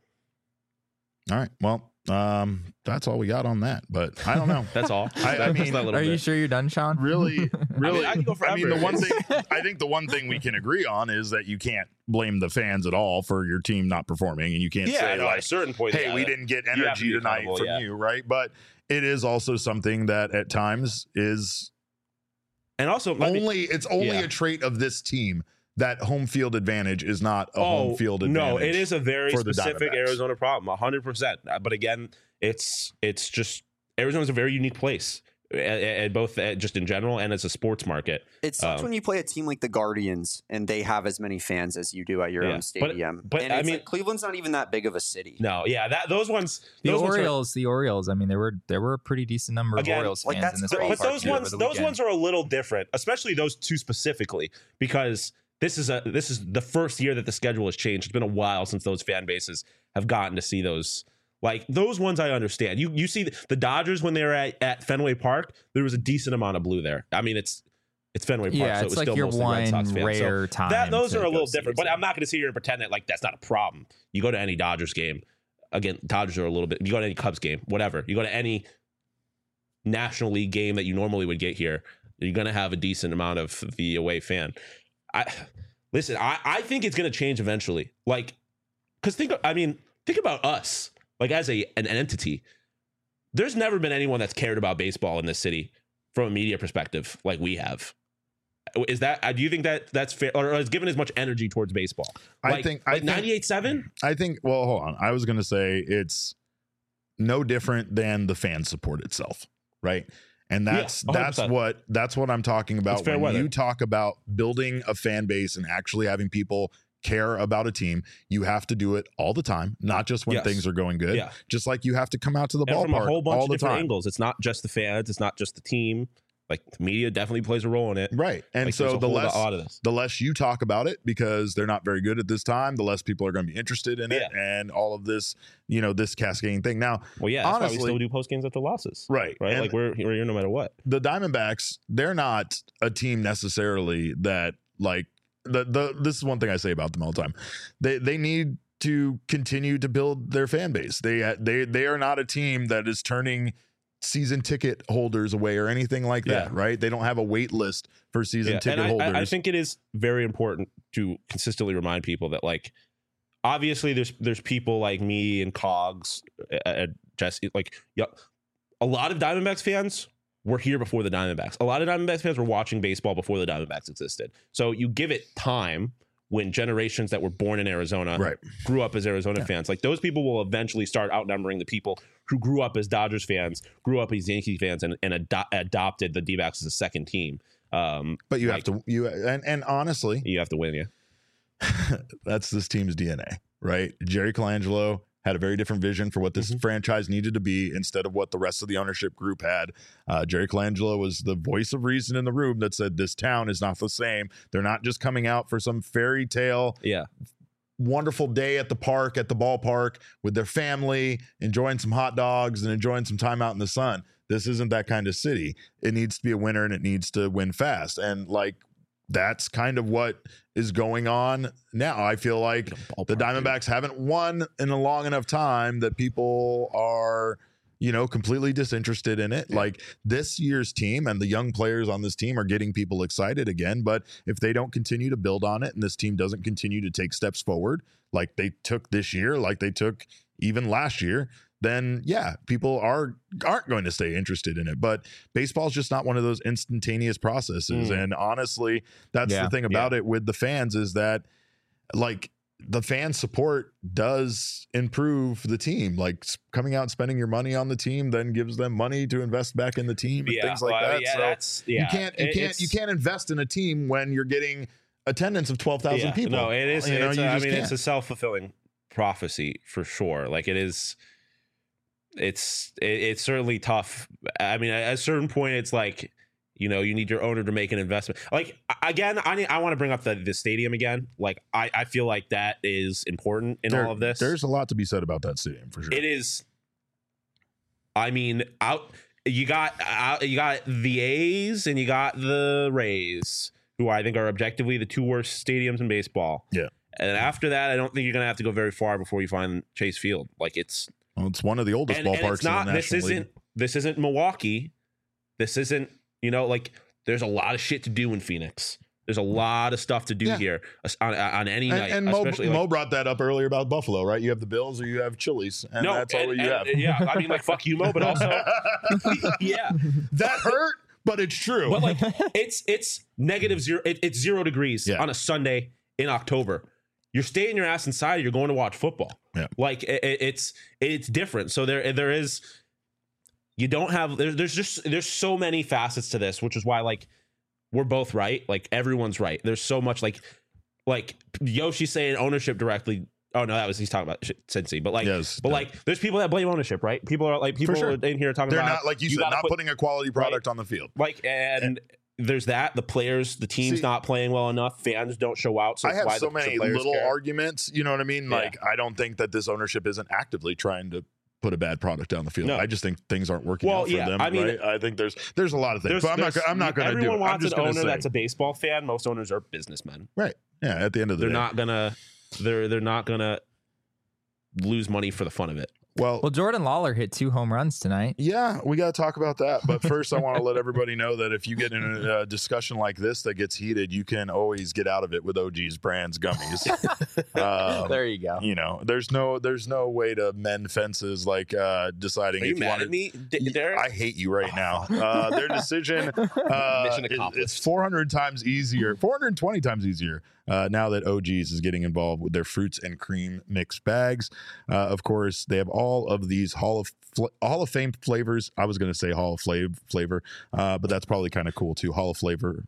All right. Well, that's all we got on that. But I don't know. That's all. I mean, Are you sure you're done, Sean? really, I can go forever. the one thing we can agree on is that you can't blame the fans at all for your team not performing, and you can't say at a like, certain point, hey, we didn't get have to energy be tonight accountable, from you, right? But it is also something that at times is and also it's only a trait of this team that home field advantage is not a home field advantage. No, it is a very for the specific Diamondbacks. Arizona problem, 100%. But again, it's just Arizona's a very unique place, both just in general and as a sports market. It sucks when you play a team like the Guardians and they have as many fans as you do at your own stadium. But and I it's mean, like Cleveland's not even that big of a city. No, yeah, those ones. The those Orioles. I mean, there were a pretty decent number of Orioles like, fans in this that's ballpark. But those too, ones are a little different, especially those two specifically, because this is the first year that the schedule has changed. It's been a while since those fan bases have gotten to see those. Like those ones, I understand. You see the Dodgers when they were at Fenway Park, there was a decent amount of blue there. I mean, it's Fenway Park, so it it's was like still your mostly Red Sox fans. rare time. Those are a little see different. But I'm not going to sit here and pretend that like that's not a problem. You go to any Dodgers game, again, Dodgers are a little bit. You go to any Cubs game, whatever. You go to any National League game that you normally would get here, you're going to have a decent amount of the away fan. I think it's going to change eventually. Like, because think about us, like as an entity. There's never been anyone that's cared about baseball in this city from a media perspective like we have. Is that? Do you think that's fair, or is given as much energy towards baseball? I think 98.7. I think. Well, hold on. I was going to say it's no different than the fan support itself, right? And that's 100%. that's what I'm talking about fair when weather. you talk about building a fan base and actually having people care about a team. You have to do it all the time, not just when things are going good. Yeah. Just like you have to come out to the And from a ballpark whole bunch all of the different time. angles. It's not just the fans. It's not just the team. Like the media definitely plays a role in it. Right. And Like, so there's a the lot of this. less you talk about it, because they're not very good at this time, the less people are going to be interested in it, and all of this, this cascading thing. Now, Well, yeah, that's honestly, why we still do post games after losses. right. And Like we're here no matter what. the Diamondbacks, they're not a team necessarily that like this is one thing I say about them all the time. They need to continue to build their fan base. They are not a team that is turning season ticket holders away or anything like that, right? They don't have a wait list for season ticket holders. I think it is very important to consistently remind people that, like, obviously there's people like me and Cogs, Jesse, like, a lot of Diamondbacks fans were here before the Diamondbacks. A lot of Diamondbacks fans were watching baseball before the Diamondbacks existed. So you give it time. When generations that were born in Arizona grew up as Arizona fans, like those people will eventually start outnumbering the people who grew up as Dodgers fans, grew up as Yankee fans, and adopted the D-backs as a second team. But you have to, and honestly, you have to win. Yeah, that's this team's DNA, right? Jerry Colangelo had a very different vision for what this franchise needed to be instead of what the rest of the ownership group had. Jerry Colangelo was the voice of reason in the room that said this town is not the same. They're not just coming out for some fairy tale, wonderful day at the park, at the ballpark with their family, enjoying some hot dogs and enjoying some time out in the sun. This isn't that kind of city. It needs to be a winner, and it needs to win fast. And like, that's kind of what is going on now. I feel like the Diamondbacks haven't won in a long enough time that people are, completely disinterested in it. Like this year's team and the young players on this team are getting people excited again. But if they don't continue to build on it and this team doesn't continue to take steps forward, like they took this year, like they took even last year, then people aren't going to stay interested in it. But baseball is just not one of those instantaneous processes. And honestly, that's the thing about it with the fans, is that like the fan support does improve the team. Like coming out and spending your money on the team then gives them money to invest back in the team and things like that. You can't invest in a team when you're getting attendance of 12,000 people. No, it is. You know, It's, you I just mean, can't. it's a self-fulfilling prophecy for sure. Like it is. It's certainly tough. I mean, at a certain point, it's like, you know, you need your owner to make an investment. Like again, I want to bring up the stadium again. Like I feel like that is important in all of this. There's a lot to be said about that stadium for sure. It is. I mean, you got the A's and you got the Rays, who I think are objectively the two worst stadiums in baseball. Yeah. And after that, I don't think you're going to have to go very far before you find Chase Field. Like it's one of the oldest ballparks it's not, in the National League. This isn't Milwaukee. This isn't, you know, like there's a lot of shit to do in Phoenix. There's a lot of stuff to do here on any night. And Mo brought that up earlier about Buffalo, right? You have the Bills or you have Chili's, and that's all you have. Yeah, I mean, like, fuck you, Mo, but also, yeah. That hurt, but it's true. But, like, it's negative zero. It's 0 degrees on a Sunday in October. You're staying your ass inside. You're going to watch football. Yeah. Like, it's different. So there is, you don't have, there's so many facets to this, which is why, like, we're both right. Like everyone's right. There's so much like Yoshi saying ownership directly. Oh no, he's talking about Cincy. But like, like there's people that blame ownership, right? People are like, in here talking they're about, not, like you said, not putting a quality product on the field. Like, and there's that the players, the team's not playing well enough. Fans don't show out. So I have so many little arguments. You know what I mean? Yeah. Like I don't think that this ownership isn't actively trying to put a bad product down the field. No. I just think things aren't working out for them. I mean, right? I think there's a lot of things, but I'm not going to do it. Everyone wants an owner that's a baseball fan. Most owners are businessmen. Right. Yeah. At the end of the day, they're not gonna lose money for the fun of it. Well, Jordan Lawler hit 2 home runs tonight. Yeah, we got to talk about that. But first, I want to let everybody know that if you get in a discussion like this that gets heated, you can always get out of it with OG's Brands gummies. There you go. You know, there's no way to mend fences like deciding. Are you mad at me, Derek? I hate you right now. Their decision Mission accomplished. It's 400 times easier, 420 times easier. Now that OG's is getting involved with their fruits and cream mixed bags. Of course, they have all of these Hall of Fame flavors. I was going to say Hall of flavor, but that's probably kind of cool too. Hall of flavors.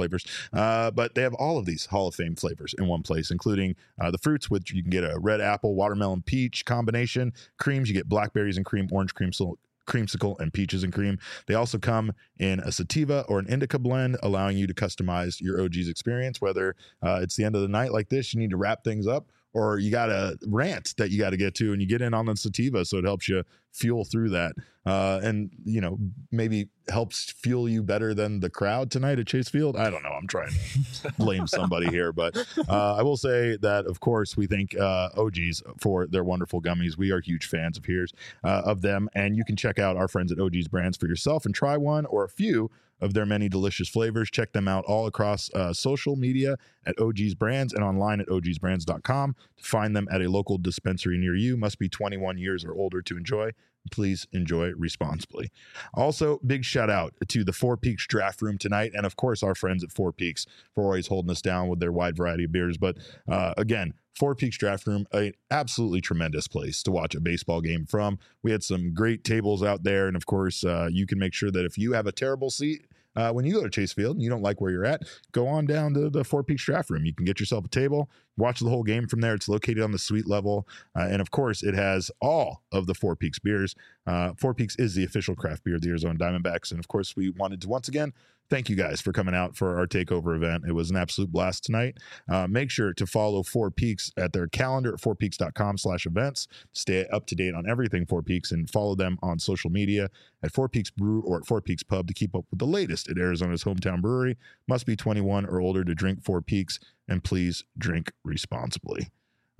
But they have all of these Hall of Fame flavors in one place, including the fruits, which you can get a red apple, watermelon, peach combination. Creams, you get blackberries and cream, orange creamsicle, and peaches and cream. They also come in a sativa or an indica blend, allowing you to customize your OG's experience, whether it's the end of the night like this, you need to wrap things up, or you got a rant that you got to get to and you get in on the sativa, so it helps you fuel through that, and you know, maybe helps fuel you better than the crowd tonight at Chase Field. I don't know, I'm trying to blame somebody here, but I will say that of course we thank OG's for their wonderful gummies. We are huge fans of them, and you can check out our friends at OG's Brands for yourself and try one or a few of their many delicious flavors. Check them out all across social media at OG's Brands and online at ogsbrands.com to find them at a local dispensary near you. Must be 21 years or older to enjoy. Please enjoy responsibly. Also, big shout out to the Four Peaks Draft Room tonight, and of course our friends at Four Peaks for always holding us down with their wide variety of beers. But again, Four Peaks Draft Room, an absolutely tremendous place to watch a baseball game from. We had some great tables out there, and of course, you can make sure that if you have a terrible seat when you go to Chase Field and you don't like where you're at, go on down to the Four Peaks Draft Room. You can get yourself a table, watch the whole game from there. It's located on the suite level, and of course, it has all of the Four Peaks beers. Four Peaks is the official craft beer of the Arizona Diamondbacks, and of course, we wanted to once again thank you guys for coming out for our takeover event. It was an absolute blast tonight. Make sure to follow Four Peaks at their calendar at fourpeaks.com/events. Stay up to date on everything Four Peaks, and follow them on social media at Four Peaks Brew or at Four Peaks Pub to keep up with the latest at Arizona's hometown brewery. Must be 21 or older to drink Four Peaks, and please drink responsibly.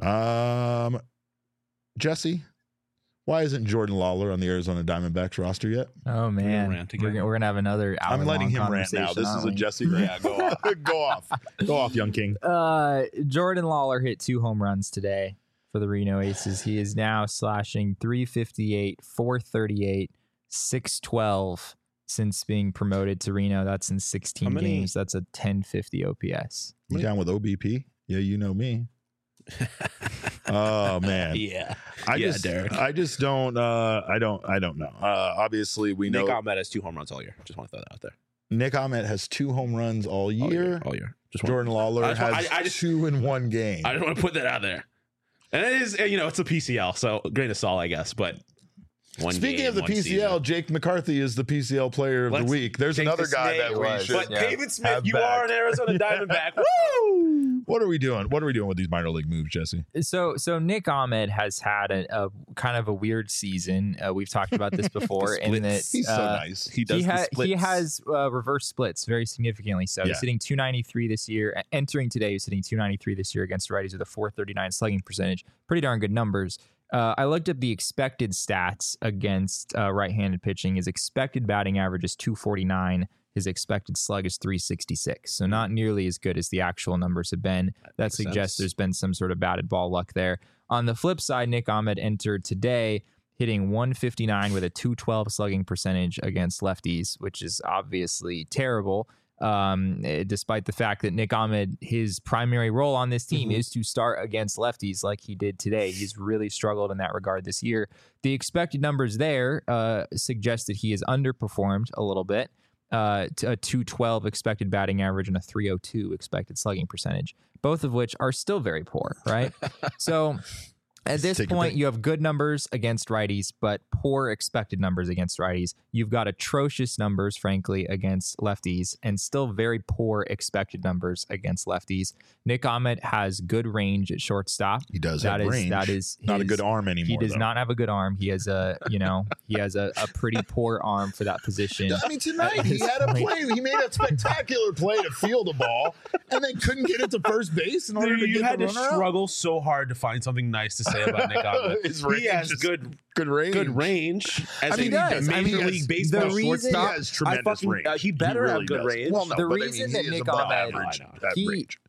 Jesse, why isn't Jordan Lawler on the Arizona Diamondbacks roster yet? Oh man, we're gonna have another hour. I'm letting him rant now. This is a Jesse rant. Yeah, go off. Go off, young king. Jordan Lawler hit 2 home runs today for the Reno Aces. He is now slashing .358, .438, .612 since being promoted to Reno. That's in 16 games. That's a .1050 OPS. You down with OBP? Yeah, you know me. Oh man, yeah. Derek. I just don't. I don't know. Obviously, we know Nick Ahmed has 2 home runs all year. Just want to throw that out there. Nick Ahmed has 2 home runs all year. All year. Jordan Lawler I has just- 2 in 1 game. I just want to put that out there. And it is, it's a PCL, so grain of salt, I guess. But Speaking of the PCL, Jake McCarthy is the PCL player of the week. There's another guy that we should. But Pavin Smith, have you back. are an Arizona Diamondback. Woo! What are we doing? What are we doing with these minor league moves, Jesse? So Nick Ahmed has had a kind of a weird season. We've talked about this before, in that He's so nice. He does he has reverse splits very significantly. So Yeah. he's hitting 293 this year. Entering today, he's hitting 293 this year against righties with a 439 slugging percentage. Pretty darn good numbers. I looked up the expected stats against right-handed pitching. His expected batting average is 249. His expected slug is 366. So not nearly as good as the actual numbers have been. That suggests there's been some sort of batted ball luck there. On the flip side, Nick Ahmed entered today hitting 159 with a 212 slugging percentage against lefties, which is obviously terrible. Despite the fact that Nick Ahmed, his primary role on this team is to start against lefties like he did today. He's really struggled in that regard this year. The expected numbers there suggest that he has underperformed a little bit. To a 212 expected batting average and a 302 expected slugging percentage, both of which are still very poor, right? So at this point, you have good numbers against righties, but poor expected numbers against righties. You've got atrocious numbers, frankly, against lefties, and still very poor expected numbers against lefties. Nick Ahmed has good range at shortstop. He does have range. That is not a good arm anymore. He does not have a good arm. He has a pretty poor arm for that position. I mean, tonight he had a play. He made a spectacular play to field a ball, and then couldn't get it to first base in order to you get had the to runner out. struggle so hard to find something nice to say about Nick Ahmed. His range He has is good range. Good range. As I mean, a he Major has- League Baseball the reason- shortstop. He has tremendous range. He better really have good does. range. Well, no, The but reason that he is Nick above Ahmed- average at range.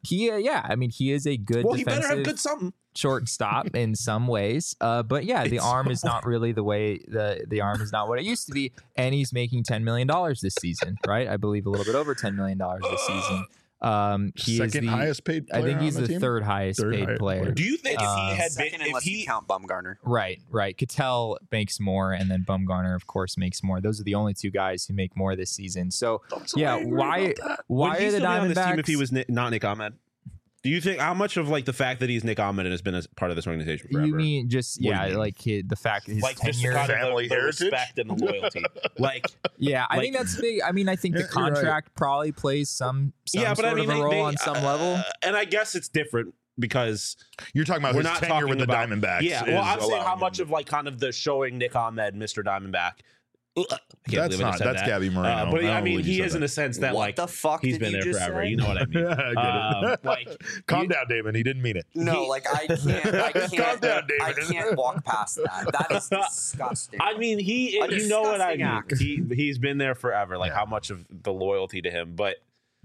He is a good Well, he better have defensive good something. shortstop in some ways. But yeah, the arm is not really the way the arm is not what it used to be. And he's making $10 million this season, right? I believe a little bit over $10 million this season. He Second is the highest paid player I think he's on the team? third highest Third paid highest player. player. Do you think if he had Second been, unless you count Bumgarner. Right. Cattell makes more, and then Bumgarner, of course, makes more. Those are the only two guys who make more this season. So, yeah, why would he are the still be on this Diamondbacks? team if he was not Nick Ahmed? Do you think how much of like the fact that he's Nick Ahmed and has been a part of this organization forever? You mean just What do you mean? like the fact that his like just tenure? kind of Family the heritage? respect and the loyalty. Like Yeah, I like- think that's big. I mean, I think the Yeah, you're right. contract probably plays some yeah, but sort I mean of a role they, on some level. and I guess it's different because You're talking about we're his not tenure talking with the about Diamondbacks. Yeah, well, I'm is saying how allowing much him of like kind of the showing Nick Ahmed, Mr. Diamondback. I can't That's believe I not. just said That's that. Gabby Moreno. But I don't mean, believe you he said is in that. a sense that What like the fuck he's did been you there just forever. say? You know what I mean? I get it. Like Calm down, Damon. He didn't mean it. No, like I can't down, David. I can't walk past that. That is disgusting. I mean, you A know what I disgusting mean. act. He's been there forever. Like Yeah. how much of the loyalty to him, but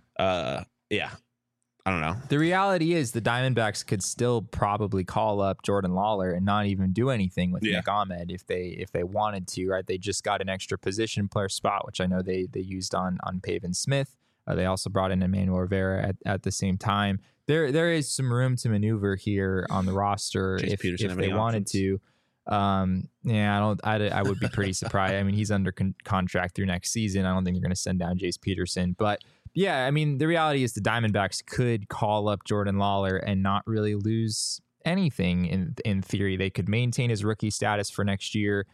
yeah, I don't know. The reality is the Diamondbacks could still probably call up Jordan Lawler and not even do anything with Yeah. Nick Ahmed if they wanted to, right? They just got an extra position player spot, which I know they used on Pavin Smith. They also brought in Emmanuel Rivera at the same time. There is some room to maneuver here on the roster Chase if Peterson if have they any wanted options? to. Yeah, I would be pretty surprised. I mean, he's under contract through next season. I don't think they're going to send down Jace Peterson, but yeah, I mean, the reality is the Diamondbacks could call up Jordan Lawler and not really lose anything. In theory, they could maintain his rookie status for next year.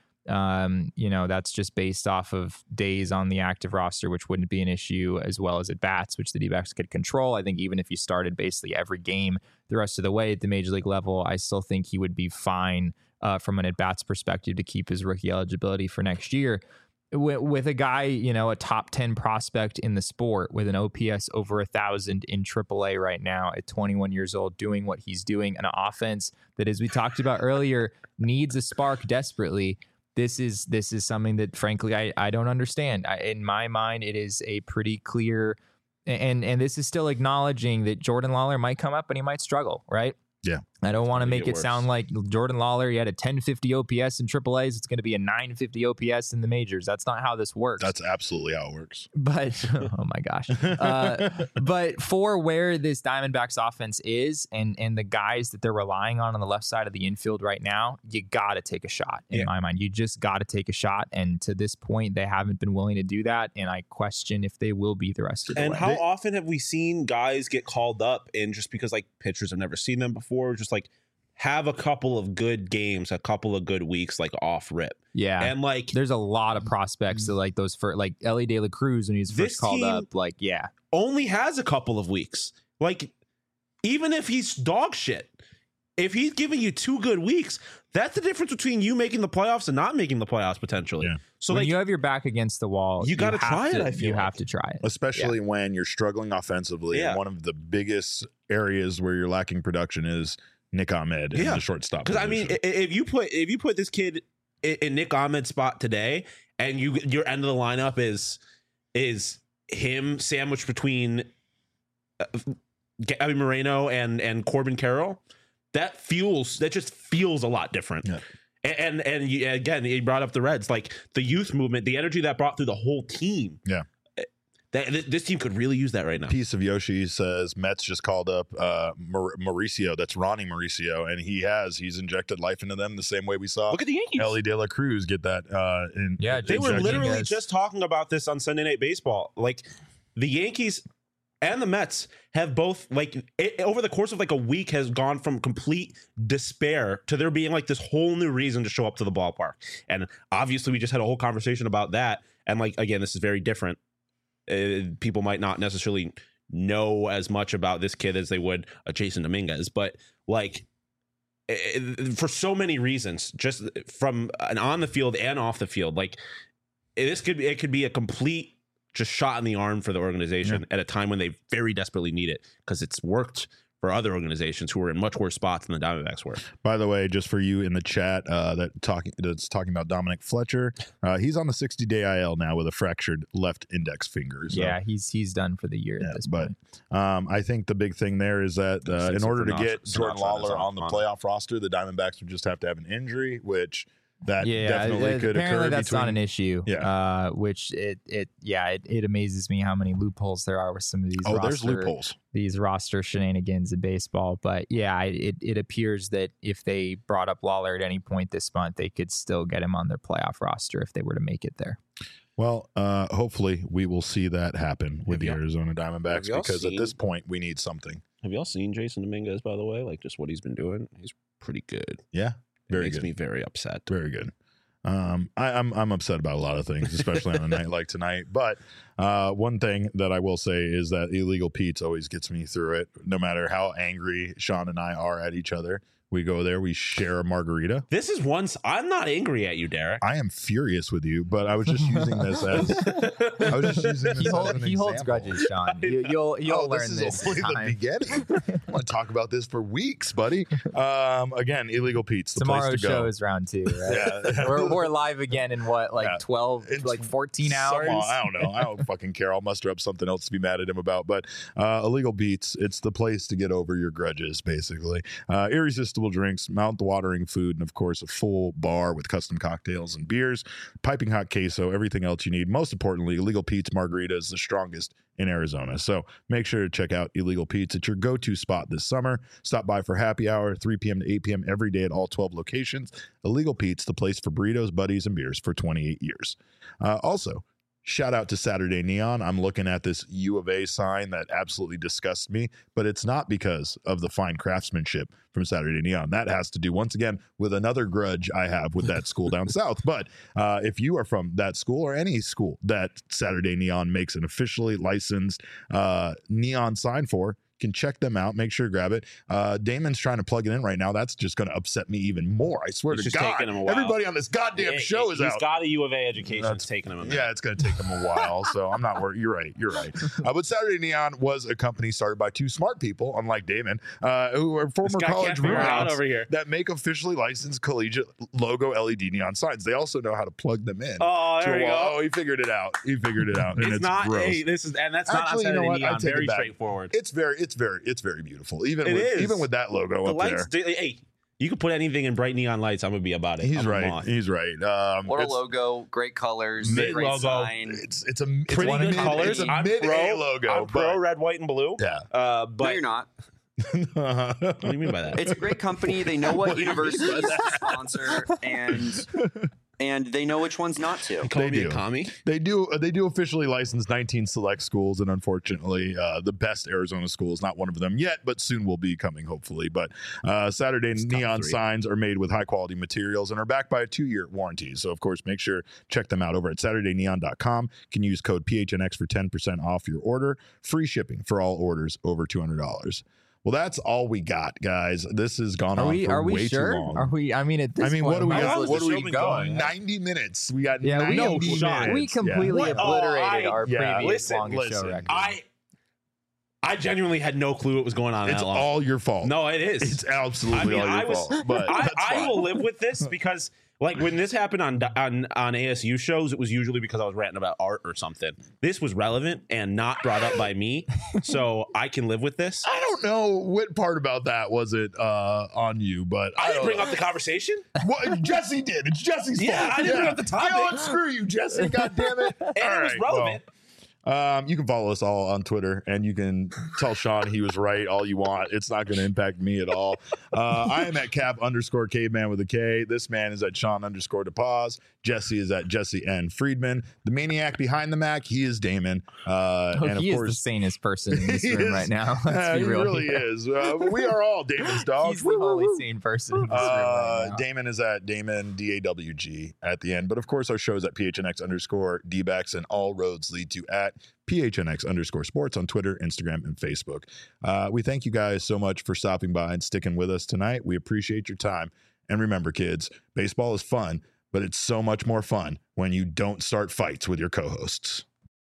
That's just based off of days on the active roster, which wouldn't be an issue, as well as at bats, which the D-backs could control. I think even if you started basically every game the rest of the way at the major league level, I still think he would be fine from an at-bats perspective to keep his rookie eligibility for next year. With a guy, a top 10 prospect in the sport with an OPS over 1,000 in AAA right now at 21 years old, doing what he's doing, an offense that, as we talked about earlier, needs a spark desperately. This is something that, frankly, I don't understand. In my mind, it is a pretty clear, and this is still acknowledging that Jordan Lawler might come up and he might struggle, right? Yeah. I don't want to gonna make get it worse. sound like Jordan Lawler, he had a 1050 OPS in AAAs. It's going to be a 950 OPS in the majors. That's not how this works. That's absolutely how it works. But oh my gosh. But for where this Diamondbacks offense is and the guys that they're relying on the left side of the infield right now, you got to take a shot in my mind. You just got to take a shot. And to this point, they haven't been willing to do that. And I question if they will be the rest of the And way. how often have we seen guys get called up and just because like pitchers have never seen them before, just like have a couple of good games, a couple of good weeks, like off rip. Yeah. And like there's a lot of prospects that like those for like Ellie De La Cruz when he was This first called team- up. Like, yeah. only has a couple of weeks. Like, even if he's dog shit, if he's giving you 2 good weeks, that's the difference between you making the playoffs and not making the playoffs potentially. Yeah. So When like you have your back against the wall, you gotta have try it, to- I feel you like. have to try it. Especially when you're struggling offensively. Yeah. And one of the biggest areas where you're lacking production is Nick Ahmed in Yeah. the shortstop. because I mean, position. if you put this kid in Nick Ahmed's spot today, and your end of the lineup is him sandwiched between Gabby Moreno and Corbin Carroll, that just feels a lot different. Yeah. And again, he brought up the Reds, like the youth movement, the energy that brought through the whole team. Yeah. This team could really use that right now. Piece of Yoshi says Mets just called up Mauricio. That's Ronnie Mauricio, and he's injected life into them the same way we saw Look at the Yankees. Ellie De La Cruz get that. Yeah, They were Injecting literally guys. just talking about this on Sunday Night Baseball. Like the Yankees and the Mets have both over the course of like a week has gone from complete despair to there being like this whole new reason to show up to the ballpark. And obviously we just had a whole conversation about that. And like, again, this is very different. People might not necessarily know as much about this kid as they would a Jason Dominguez, but like for so many reasons, just from an on the field and off the field, like it could be a complete just shot in the arm for the organization at a time when they very desperately need it, because it's worked for other organizations who are in much worse spots than the Diamondbacks were. By the way, just for you in the chat that's talking about Dominic Fletcher, he's on the 60-day IL now with a fractured left index finger. So, Yeah, he's done for the year at this but point. I think the big thing there is that in order to get Jordan Sinatra Lawler is on the on. playoff roster, the Diamondbacks would just have to have an injury, which that Yeah, definitely could apparently occur. that's not an issue. Yeah. Which it amazes me how many loopholes there are with some of these. There's loopholes. These roster shenanigans in baseball. But yeah, it appears that if they brought up Lawler at any point this month, they could still get him on their playoff roster if they were to make it there. Well, hopefully we will see that happen with Have the y'all- Arizona Diamondbacks, have y'all because at seen- this point we need something. Have y'all seen Jason Dominguez, by the way? Like just what he's been doing? He's pretty good. Yeah, It very makes good. me very upset. Very good. I'm upset about a lot of things, especially on a night like tonight. But one thing that I will say is that Illegal Pete's always gets me through it. No matter how angry Sean and I are at each other, we go there, we share a margarita. This is once I'm not angry at you, Derek. I am furious with you, but I was just using this as He holds example. grudges, Sean. You'll learn this this. is only in the time. beginning. I want to talk about this for weeks, buddy. Again, Illegal Pete's the Tomorrow's place to show go. is round 2, right? Yeah. we're live again in what, like Yeah. 12, It's like 14 hours? I don't know. I don't fucking care. I'll muster up something else to be mad at him about. But Illegal Beats, it's the place to get over your grudges, basically. Irresistible drinks, mouth-watering food, and of course, a full bar with custom cocktails and beers, piping hot queso, everything else you need. Most importantly, Illegal Pete's Margarita is the strongest in Arizona. So make sure to check out Illegal Pete's. It's your go-to spot this summer. Stop by for happy hour, 3 p.m. to 8 p.m. every day at all 12 locations. Illegal Pete's, the place for burritos, buddies, and beers for 28 years. Also, shout out to Saturday Neon. I'm looking at this U of A sign that absolutely disgusts me, but it's not because of the fine craftsmanship from Saturday Neon. That has to do, once again, with another grudge I have with that school down south. But if you are from that school or any school that Saturday Neon makes an officially licensed neon sign for, can check them out. Make sure to grab it. Damon's trying to plug it in right now. That's just going to upset me even more. I swear It's to just God. taking him a while. Everybody on this goddamn show is He's out. got a U of A education. That's- It's taking him a minute. Yeah, it's going to take them a while, so I'm not worried. You're right. But Saturday Neon was a company started by two smart people, unlike Damon, who are This former guy can't college figure it out roommates over here. that make officially licensed collegiate logo LED neon signs. They also know how to plug them in. Oh, to there a you wall. go. Oh, he figured it out. And It's it's not. gross. Hey, this is, and that's not Actually, on you know Saturday what? I Neon. take it Very back. straightforward. It's it's very beautiful. Even It with that logo The up lights, there. hey, you could put anything in bright neon lights. I'm gonna be about it. He's I'm a right. moth. He's right. What a it's- logo, great colors, Mid great logo. sign. It's Pretty one of good mid- colors. It's a I'm mid pro A logo. I'm pro red, white, and blue. Yeah. No, But you're not. what do you mean by that? It's a great company. They know what What do you mean universities by to sponsor, and they know which ones not to. You call They me do. a commie? They do officially license 19 select schools, and unfortunately, the best Arizona school is not one of them yet, but soon will be coming, hopefully. But Saturday top neon 3. signs are made with high quality materials and are backed by a 2-year warranty. So, of course, make sure check them out over at SaturdayNeon.com. You can use code PHNX for 10% off your order. Free shipping for all orders over $200. Well, that's all we got, guys. This has gone on for way sure? too long. Are we? I mean, at this point, what do we might as got? well What just do we keep got? going? 90 minutes. We got Yeah, 90 no minutes. shot. We completely What? Oh, obliterated our yeah, previous listen, longest show record. I genuinely had no clue what was going on. It's that long. all your fault. No, it is. It's absolutely all your fault. But that's I fine. will live with this because, like, when this happened on ASU shows, it was usually because I was ranting about art or something. This was relevant and not brought up by me, so I can live with this. I don't know what part about that was it on you, but I didn't don't bring know. up the conversation, What Jesse did. It's Jesse's Yeah, fault. I didn't bring up the topic. You know what? Screw you, Jesse. God damn it. and it was relevant. You can follow us all on Twitter, and you can tell Sean he was right all you want. It's not going to impact me at all. I am at Cap_Caveman with a K. This man is at Sean_DePaz. Jesse is at Jesse N. Friedman. The maniac behind the Mac, he is Damon. And of he is the course, sanest person in this he room is- right now. Let's be he real really here. is. We are all Damon's dogs. He's the only sane person in this room right now. Damon is at Damon DAWG at the end. But of course, our show is at PHNX_DBacks, and all roads lead to at PHNX_sports on Twitter, Instagram, and Facebook. We thank you guys so much for stopping by and sticking with us tonight. We appreciate your time. And remember, kids, baseball is fun, but it's so much more fun when you don't start fights with your co-hosts.